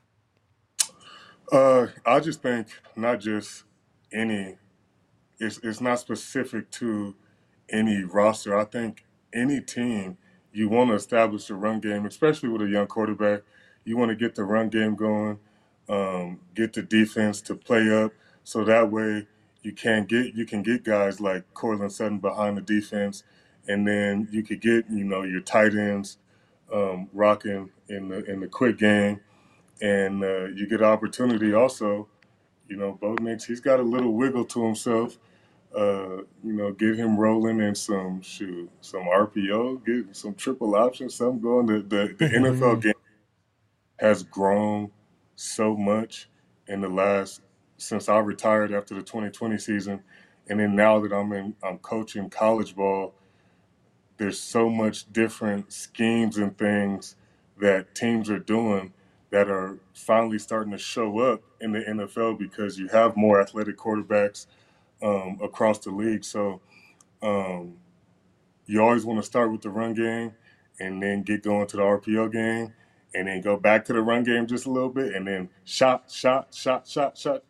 Uh, I just think not just any. It's it's not specific to any roster. I think any team, you want to establish a run game, especially with a young quarterback. You want to get the run game going, um, get the defense to play up, so that way you can get you can get guys like Cortland Sutton behind the defense, and then you could get you know your tight ends um, rocking in the in the quick game, and uh, you get opportunity also. You know, Bo Nix, he's got a little wiggle to himself. Uh, you know, get him rolling in some shoot, some R P O, get some triple option, something going. The the, the N F L game has grown so much in the last since I retired after the twenty twenty season, and then now that I'm in, I'm coaching college ball. There's so much different schemes and things that teams are doing that are finally starting to show up in the N F L because you have more athletic quarterbacks um, across the league. So um, you always want to start with the run game and then get going to the R P O game and then go back to the run game just a little bit and then shot, shot, shot, shot, shot.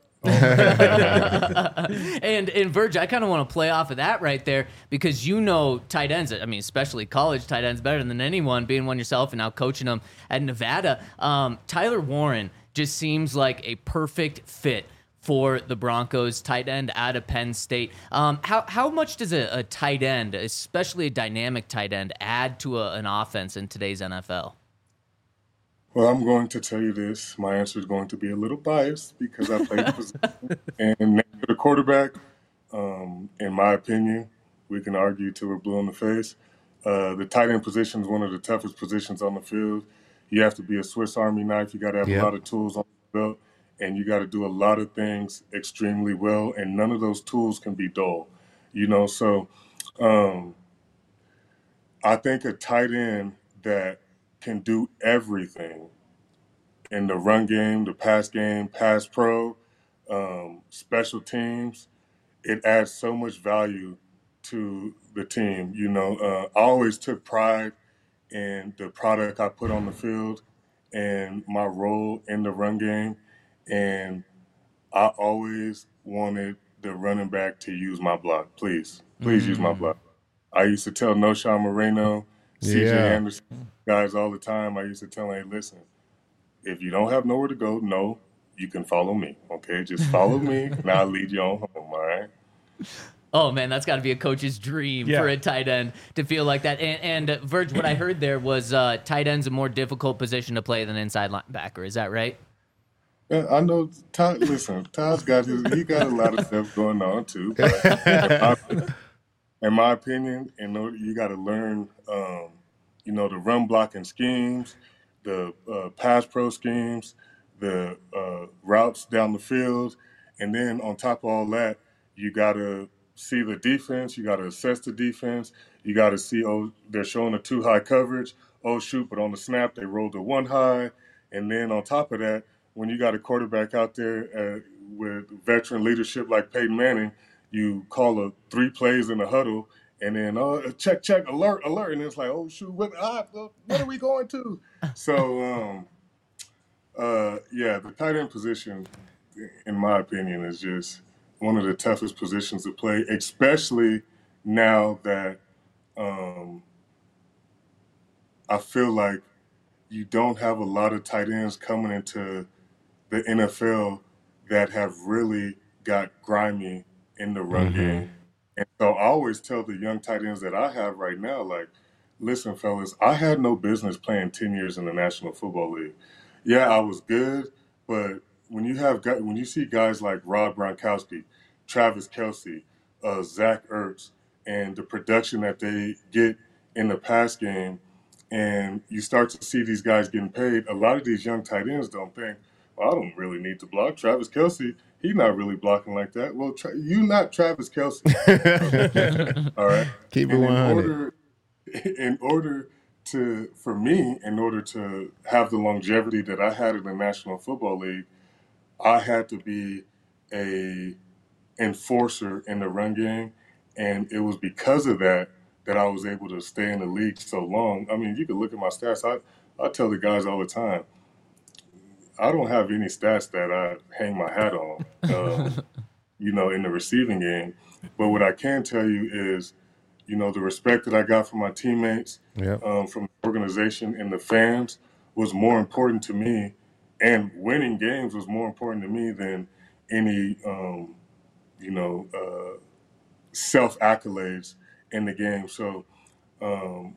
and and Verge, I kind of want to play off of that right there because you know tight ends. I mean, especially college tight ends better than anyone, being one yourself and now coaching them at Nevada. Um, Tyler Warren just seems like a perfect fit for the Broncos, tight end out of Penn State. Um, how how much does a, a tight end, especially a dynamic tight end, add to a, an offense in today's N F L? Well, I'm going to tell you this. My answer is going to be a little biased because I played the position. And next to the quarterback, um, in my opinion, we can argue till we're blue in the face. Uh, the tight end position is one of the toughest positions on the field. You have to be a Swiss Army knife. You got to have Yep. a lot of tools on the belt, and you got to do a lot of things extremely well. And none of those tools can be dull, you know. So, um, I think a tight end that can do everything in the run game, the pass game, pass pro, um, special teams. It adds so much value to the team. You know, uh, I always took pride in the product I put on the field and my role in the run game. And I always wanted the running back to use my block. Please, please use my block. I used to tell Noshawn Moreno, C J Yeah. Anderson, guys all the time. I used to tell them, hey, listen, if you don't have nowhere to go, no, you can follow me. Okay, just follow me, and I'll lead you on home. All right. Oh man, that's got to be a coach's dream Yeah. for a tight end to feel like that. And, and uh, Verge, what I heard there was uh, tight end's a more difficult position to play than inside linebacker. Is that right? Yeah, I know. Todd, listen, Todd's got his. He got a lot of stuff going on too. But in, my, in my opinion, in order, you got to learn, um, you know, the run blocking schemes, the uh, pass pro schemes, the uh, routes down the field, and then on top of all that, you got to see the defense. You got to assess the defense. You got to see, oh, they're showing a two high coverage. Oh shoot! But on the snap, they rolled a one high, and then on top of that, when you got a quarterback out there uh, with veteran leadership like Peyton Manning, you call a three plays in a huddle, and then uh, check, check, alert, alert, and it's like, oh shoot, what, ah, what are we going to? So, um, uh, yeah, the tight end position, in my opinion, is just one of the toughest positions to play, especially now that um, I feel like you don't have a lot of tight ends coming into the N F L that have really got grimy in the run Mm-hmm. game. And so I always tell the young tight ends that I have right now, like, listen, fellas, I had no business playing ten years in the National Football League. Yeah, I was good, but when you have gu- when you see guys like Rob Gronkowski, Travis Kelce, uh, Zach Ertz, and the production that they get in the pass game, and you start to see these guys getting paid, a lot of these young tight ends don't think, well, I don't really need to block. Travis Kelce, he's not really blocking like that. Well, tra- you not Travis Kelce. All right. Keep it And one in hundred. order, in order to, for me, in order to have the longevity that I had in the National Football League, I had to be a enforcer in the run game, and it was because of that that I was able to stay in the league so long. I mean, you can look at my stats. I I tell the guys all the time, I don't have any stats that I hang my hat on, um, you know, in the receiving game. But what I can tell you is, you know, the respect that I got from my teammates, Yep. um, from the organization and the fans was more important to me, and winning games was more important to me than any, um, you know, uh, self accolades in the game. So, um,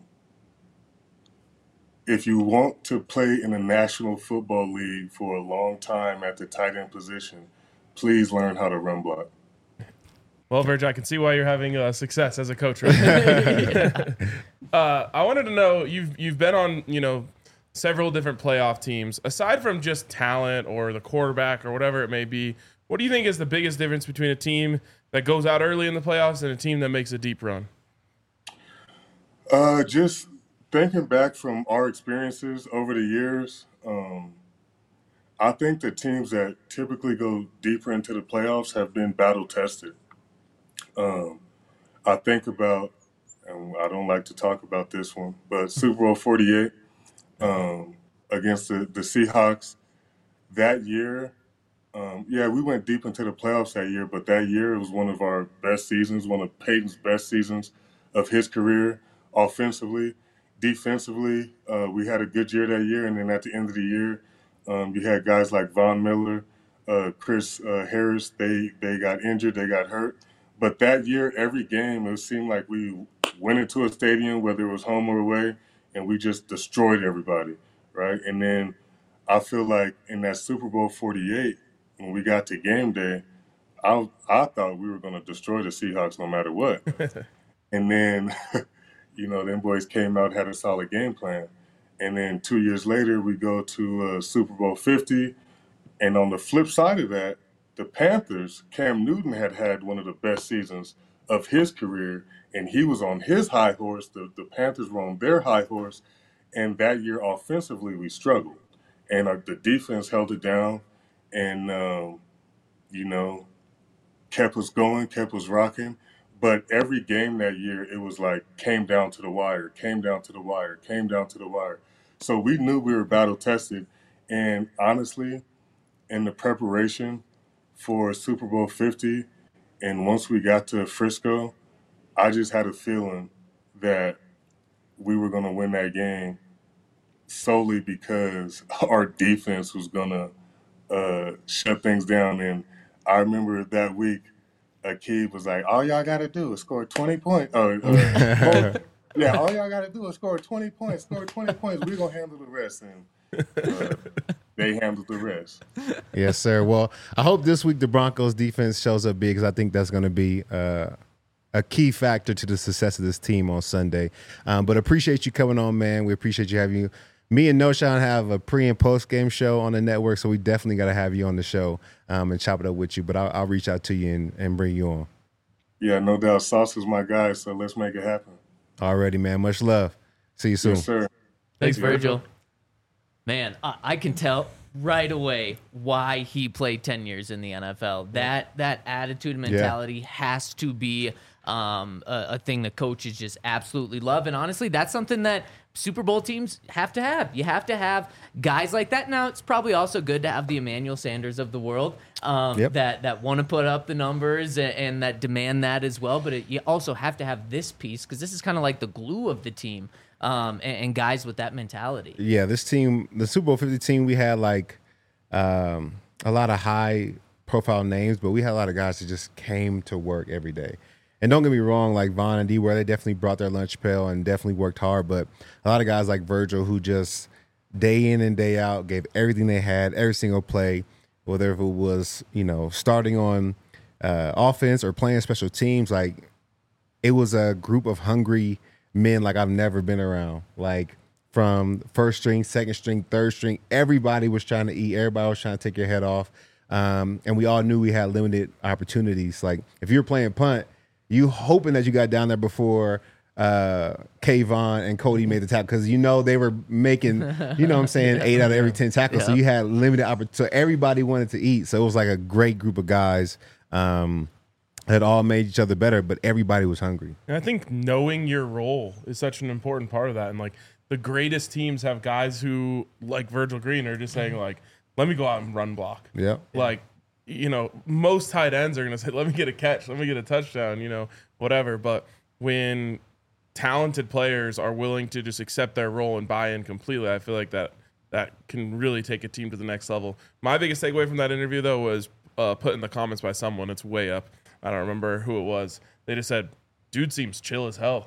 if you want to play in the National Football League for a long time at the tight end position, please learn how to run block. Well, Virg, I can see why you're having uh, success as a coach right now. uh, I wanted to know, you've you've been on, you know, several different playoff teams. Aside from just talent or the quarterback or whatever it may be, what do you think is the biggest difference between a team that goes out early in the playoffs and a team that makes a deep run? Uh, just thinking back from our experiences over the years, um, I think the teams that typically go deeper into the playoffs have been battle tested. Um, I think about, and I don't like to talk about this one, but Super Bowl forty-eight um, against the, the Seahawks that year. Um, yeah, we went deep into the playoffs that year, but that year it was one of our best seasons, one of Peyton's best seasons of his career, offensively. Defensively, uh, we had a good year that year, and then at the end of the year, um, you had guys like Von Miller, uh, Chris uh, Harris. They they got injured, they got hurt. But that year, every game, it seemed like we went into a stadium, whether it was home or away, and we just destroyed everybody, right? And then I feel like in that Super Bowl forty-eight, when we got to game day, I I thought we were going to destroy the Seahawks no matter what. And then, you know, them boys came out, had a solid game plan. And then two years later, we go to uh, Super Bowl fifty. And on the flip side of that, the Panthers, Cam Newton had had one of the best seasons of his career, and he was on his high horse. The, the Panthers were on their high horse. And that year, offensively, we struggled. And uh, the defense held it down and, um, you know, kept us going, kept us rocking. But every game that year, it was like came down to the wire, came down to the wire, came down to the wire. So we knew we were battle tested. And honestly, in the preparation for Super Bowl fifty, and once we got to Frisco, I just had a feeling that we were going to win that game solely because our defense was going to uh, shut things down. And I remember that week, Akeem was like, all y'all got to do is score twenty points. Uh, uh, yeah, all y'all got to do is score twenty points, score twenty points. We're going to handle the rest. And uh, they handled the rest. Yes, sir. Well, I hope this week the Broncos defense shows up big because I think that's going to be uh, a key factor to the success of this team on Sunday. Um, but appreciate you coming on, man. We appreciate you having you. Me and Noshawn have a pre and post game show on the network, so we definitely got to have you on the show um, and chop it up with you. But I'll, I'll reach out to you and, and bring you on. Yeah, no doubt. Sauce is my guy, so let's make it happen. Already, man. Much love. See you soon. Yes, sir. Thanks, Thank you, Virgil. Man, I, I can tell right away why he played ten years in the N F L. That that attitude and mentality has to be um, a, a thing that coaches just absolutely love. And honestly, that's something that Super Bowl teams have to have. You have to have guys like that. Now, it's probably also good to have the Emmanuel Sanders of the world um, Yep. that, that want to put up the numbers and, and that demand that as well. But it, you also have to have this piece because this is kind of like the glue of the team um, and, and guys with that mentality. Yeah, this team, the Super Bowl fifty team, we had like um, a lot of high profile names, but we had a lot of guys that just came to work every day. And don't get me wrong, like Von and D, where they definitely brought their lunch pail and definitely worked hard. But a lot of guys like Virgil who just day in and day out gave everything they had, every single play, whether if it was, you know, starting on uh, offense or playing special teams. Like, it was a group of hungry men like I've never been around. Like, from first string, second string, third string, everybody was trying to eat. Everybody was trying to take your head off. Um, and we all knew we had limited opportunities. Like, if you were playing punt, you hoping that you got down there before uh, Kayvon and Cody made the tackle because you know they were making, you know what I'm saying, eight out of every ten tackles. Yeah. So you had limited opportunity. So everybody wanted to eat. So it was like a great group of guys um, that all made each other better, but everybody was hungry. And I think knowing your role is such an important part of that. And like the greatest teams have guys who, like Virgil Green, are just saying like, let me go out and run block. Yeah. Like, you know, most tight ends are going to say, let me get a catch, let me get a touchdown, you know, whatever. But when talented players are willing to just accept their role and buy in completely, I feel like that that can really take a team to the next level. My biggest takeaway from that interview, though, was uh, put in the comments by someone. It's way up. I don't remember who it was. They just said, dude seems chill as hell.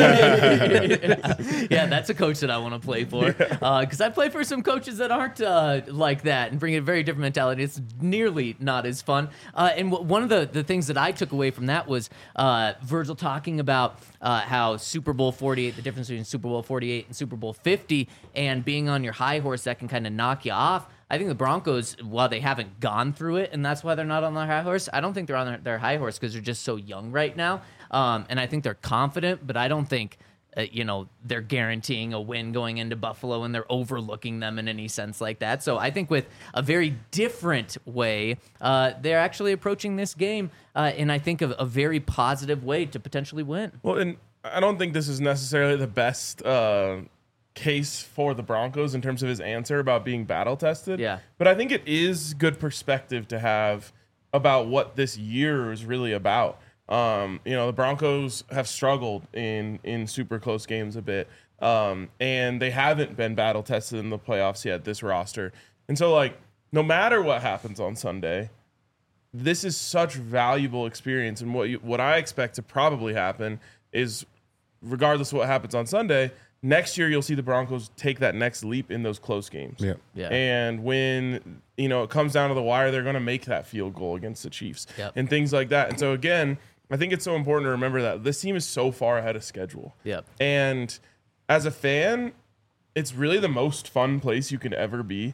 Yeah, that's a coach that I want to play for. Because uh, I play for some coaches that aren't uh, like that and bring a very different mentality. It's nearly not as fun. Uh, and w- one of the, the things that I took away from that was uh, Virgil talking about uh, how Super Bowl forty-eight, the difference between Super Bowl forty-eight and Super Bowl fifty, and being on your high horse that can kind of knock you off. I think the Broncos, while they haven't gone through it, and that's why they're not on their high horse, I don't think they're on their, their high horse because they're just so young right now. Um, and I think they're confident, but I don't think, uh, you know, they're guaranteeing a win going into Buffalo and they're overlooking them in any sense like that. So I think with a very different way, uh, they're actually approaching this game uh, in, I think, a, a very positive way to potentially win. Well, and I don't think this is necessarily the best uh, case for the Broncos in terms of his answer about being battle tested. Yeah. But I think it is good perspective to have about what this year is really about. Um, you know, the Broncos have struggled in, in super close games a bit, um, and they haven't been battle tested in the playoffs yet, this roster. And so, like, no matter what happens on Sunday, this is such valuable experience. And what you, what I expect to probably happen is, regardless of what happens on Sunday, next year you'll see the Broncos take that next leap in those close games. Yeah. Yeah. And when, you know, it comes down to the wire, they're going to make that field goal against the Chiefs Yep. and things like that. And so, again, I think it's so important to remember that this team is so far ahead of schedule. Yep. And as a fan, it's really the most fun place you can ever be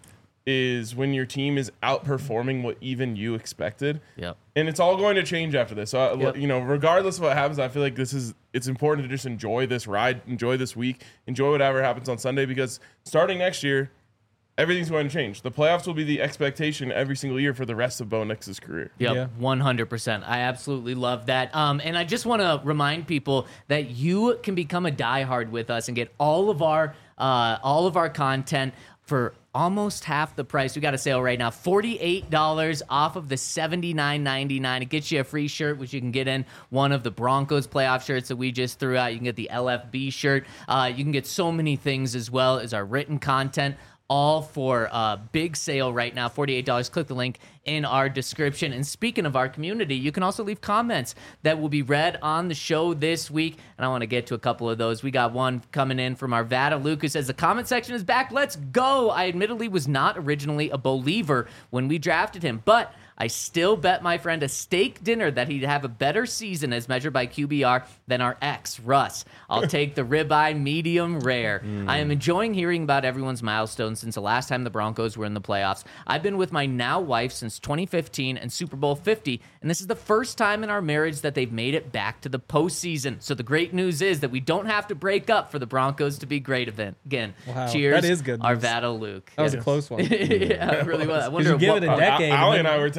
is when your team is outperforming what even you expected. Yep. And it's all going to change after this. So, uh, Yep. you know, regardless of what happens, I feel like this is, it's important to just enjoy this ride, enjoy this week, enjoy whatever happens on Sunday, because starting next year, everything's going to change. The playoffs will be the expectation every single year for the rest of Bo Nix's career. Yep, Yeah. one hundred percent. I absolutely love that. Um, and I just want to remind people that you can become a diehard with us and get all of our uh, all of our content for almost half the price. We got a sale right now, forty-eight dollars off of the seventy-nine ninety-nine. It gets you a free shirt, which you can get in one of the Broncos playoff shirts that we just threw out. You can get the L F B shirt. Uh, you can get so many things as well as our written content, all for a big sale right now, forty-eight dollars. Click the link in our description. And speaking of our community, you can also leave comments that will be read on the show this week. And I want to get to a couple of those. We got one coming in from our Vada Luke who says, the comment section is back. Let's go. I admittedly was not originally a believer when we drafted him, but I still bet my friend a steak dinner that he'd have a better season as measured by Q B R than our ex, Russ. I'll take the ribeye medium rare. Mm. I am enjoying hearing about everyone's milestones since the last time the Broncos were in the playoffs. I've been with my now wife since twenty fifteen and Super Bowl fifty, and this is the first time in our marriage that they've made it back to the postseason. So the great news is that we don't have to break up for the Broncos to be great again. Wow, Cheers, that is good our news. Vada Luke. That was yeah. a close one. Yeah, it really was. I wonder you give what it a part- decade. Ali and and I then- were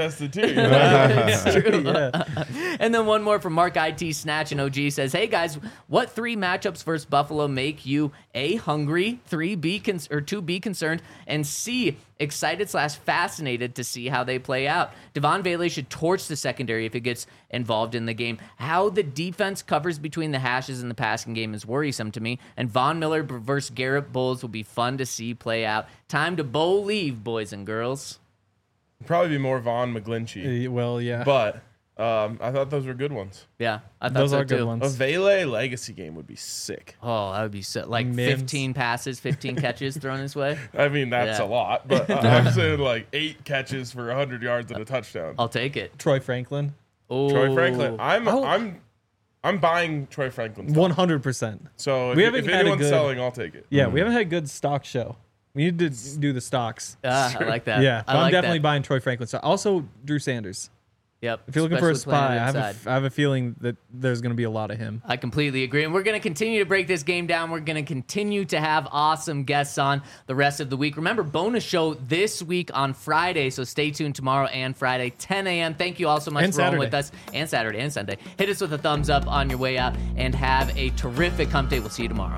tested too. You know? It's true. Yeah. And then one more from Mark I T Snatch and O G says, "Hey guys, what three matchups versus Buffalo make you A, hungry, three, be con- or two, be concerned, and C, excited slash fascinated to see how they play out? Devon Vele should torch the secondary if it gets involved in the game. How the defense covers between the hashes in the passing game is worrisome to me, and Von Miller versus Garrett Bowles will be fun to see play out. Time to bowl leave, boys and girls." Probably be more Vaughn McGlinchey, Uh, Well, yeah. but um, I thought those were good ones. Yeah, I thought Those so are good too. ones. A Vele legacy game would be sick. Oh, that would be so, like Mims. fifteen passes, fifteen catches thrown his way. I mean, that's Yeah. a lot, but uh, I'm saying like eight catches for one hundred yards and a touchdown. I'll take it. Troy Franklin, Oh, Troy Franklin. I'm Oh. I'm I'm buying Troy Franklin. stock. one hundred percent. So if, We you- haven't if had a anyone's good- selling, I'll take it. Yeah, we haven't had a good stock show. We need to do the stocks. Ah, I like that. Yeah, I but like I'm definitely that. buying Troy Franklin. So also Drew Sanders. Yep. If you're looking for a especially playing spy, I have a, inside. f- I have a feeling that there's going to be a lot of him. I completely agree. And we're going to continue to break this game down. We're going to continue to have awesome guests on the rest of the week. Remember, bonus show this week on Friday. So stay tuned tomorrow and Friday, ten a.m. Thank you all so much And for rolling Saturday. with us. And Saturday and Sunday. Hit us with a thumbs up on your way out and have a terrific hump day. We'll see you tomorrow.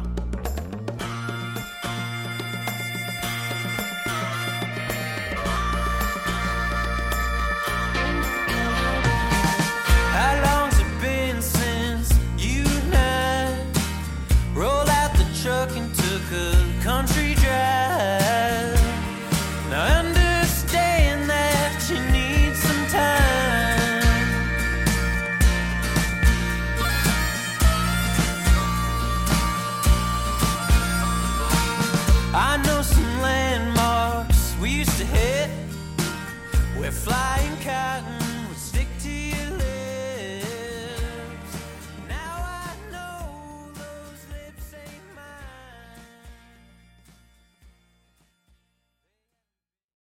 How long's it been since you and I rolled out the truck and took a country drive? Now I understand that you need some time. I know some landmarks we used to hit. We're flying cotton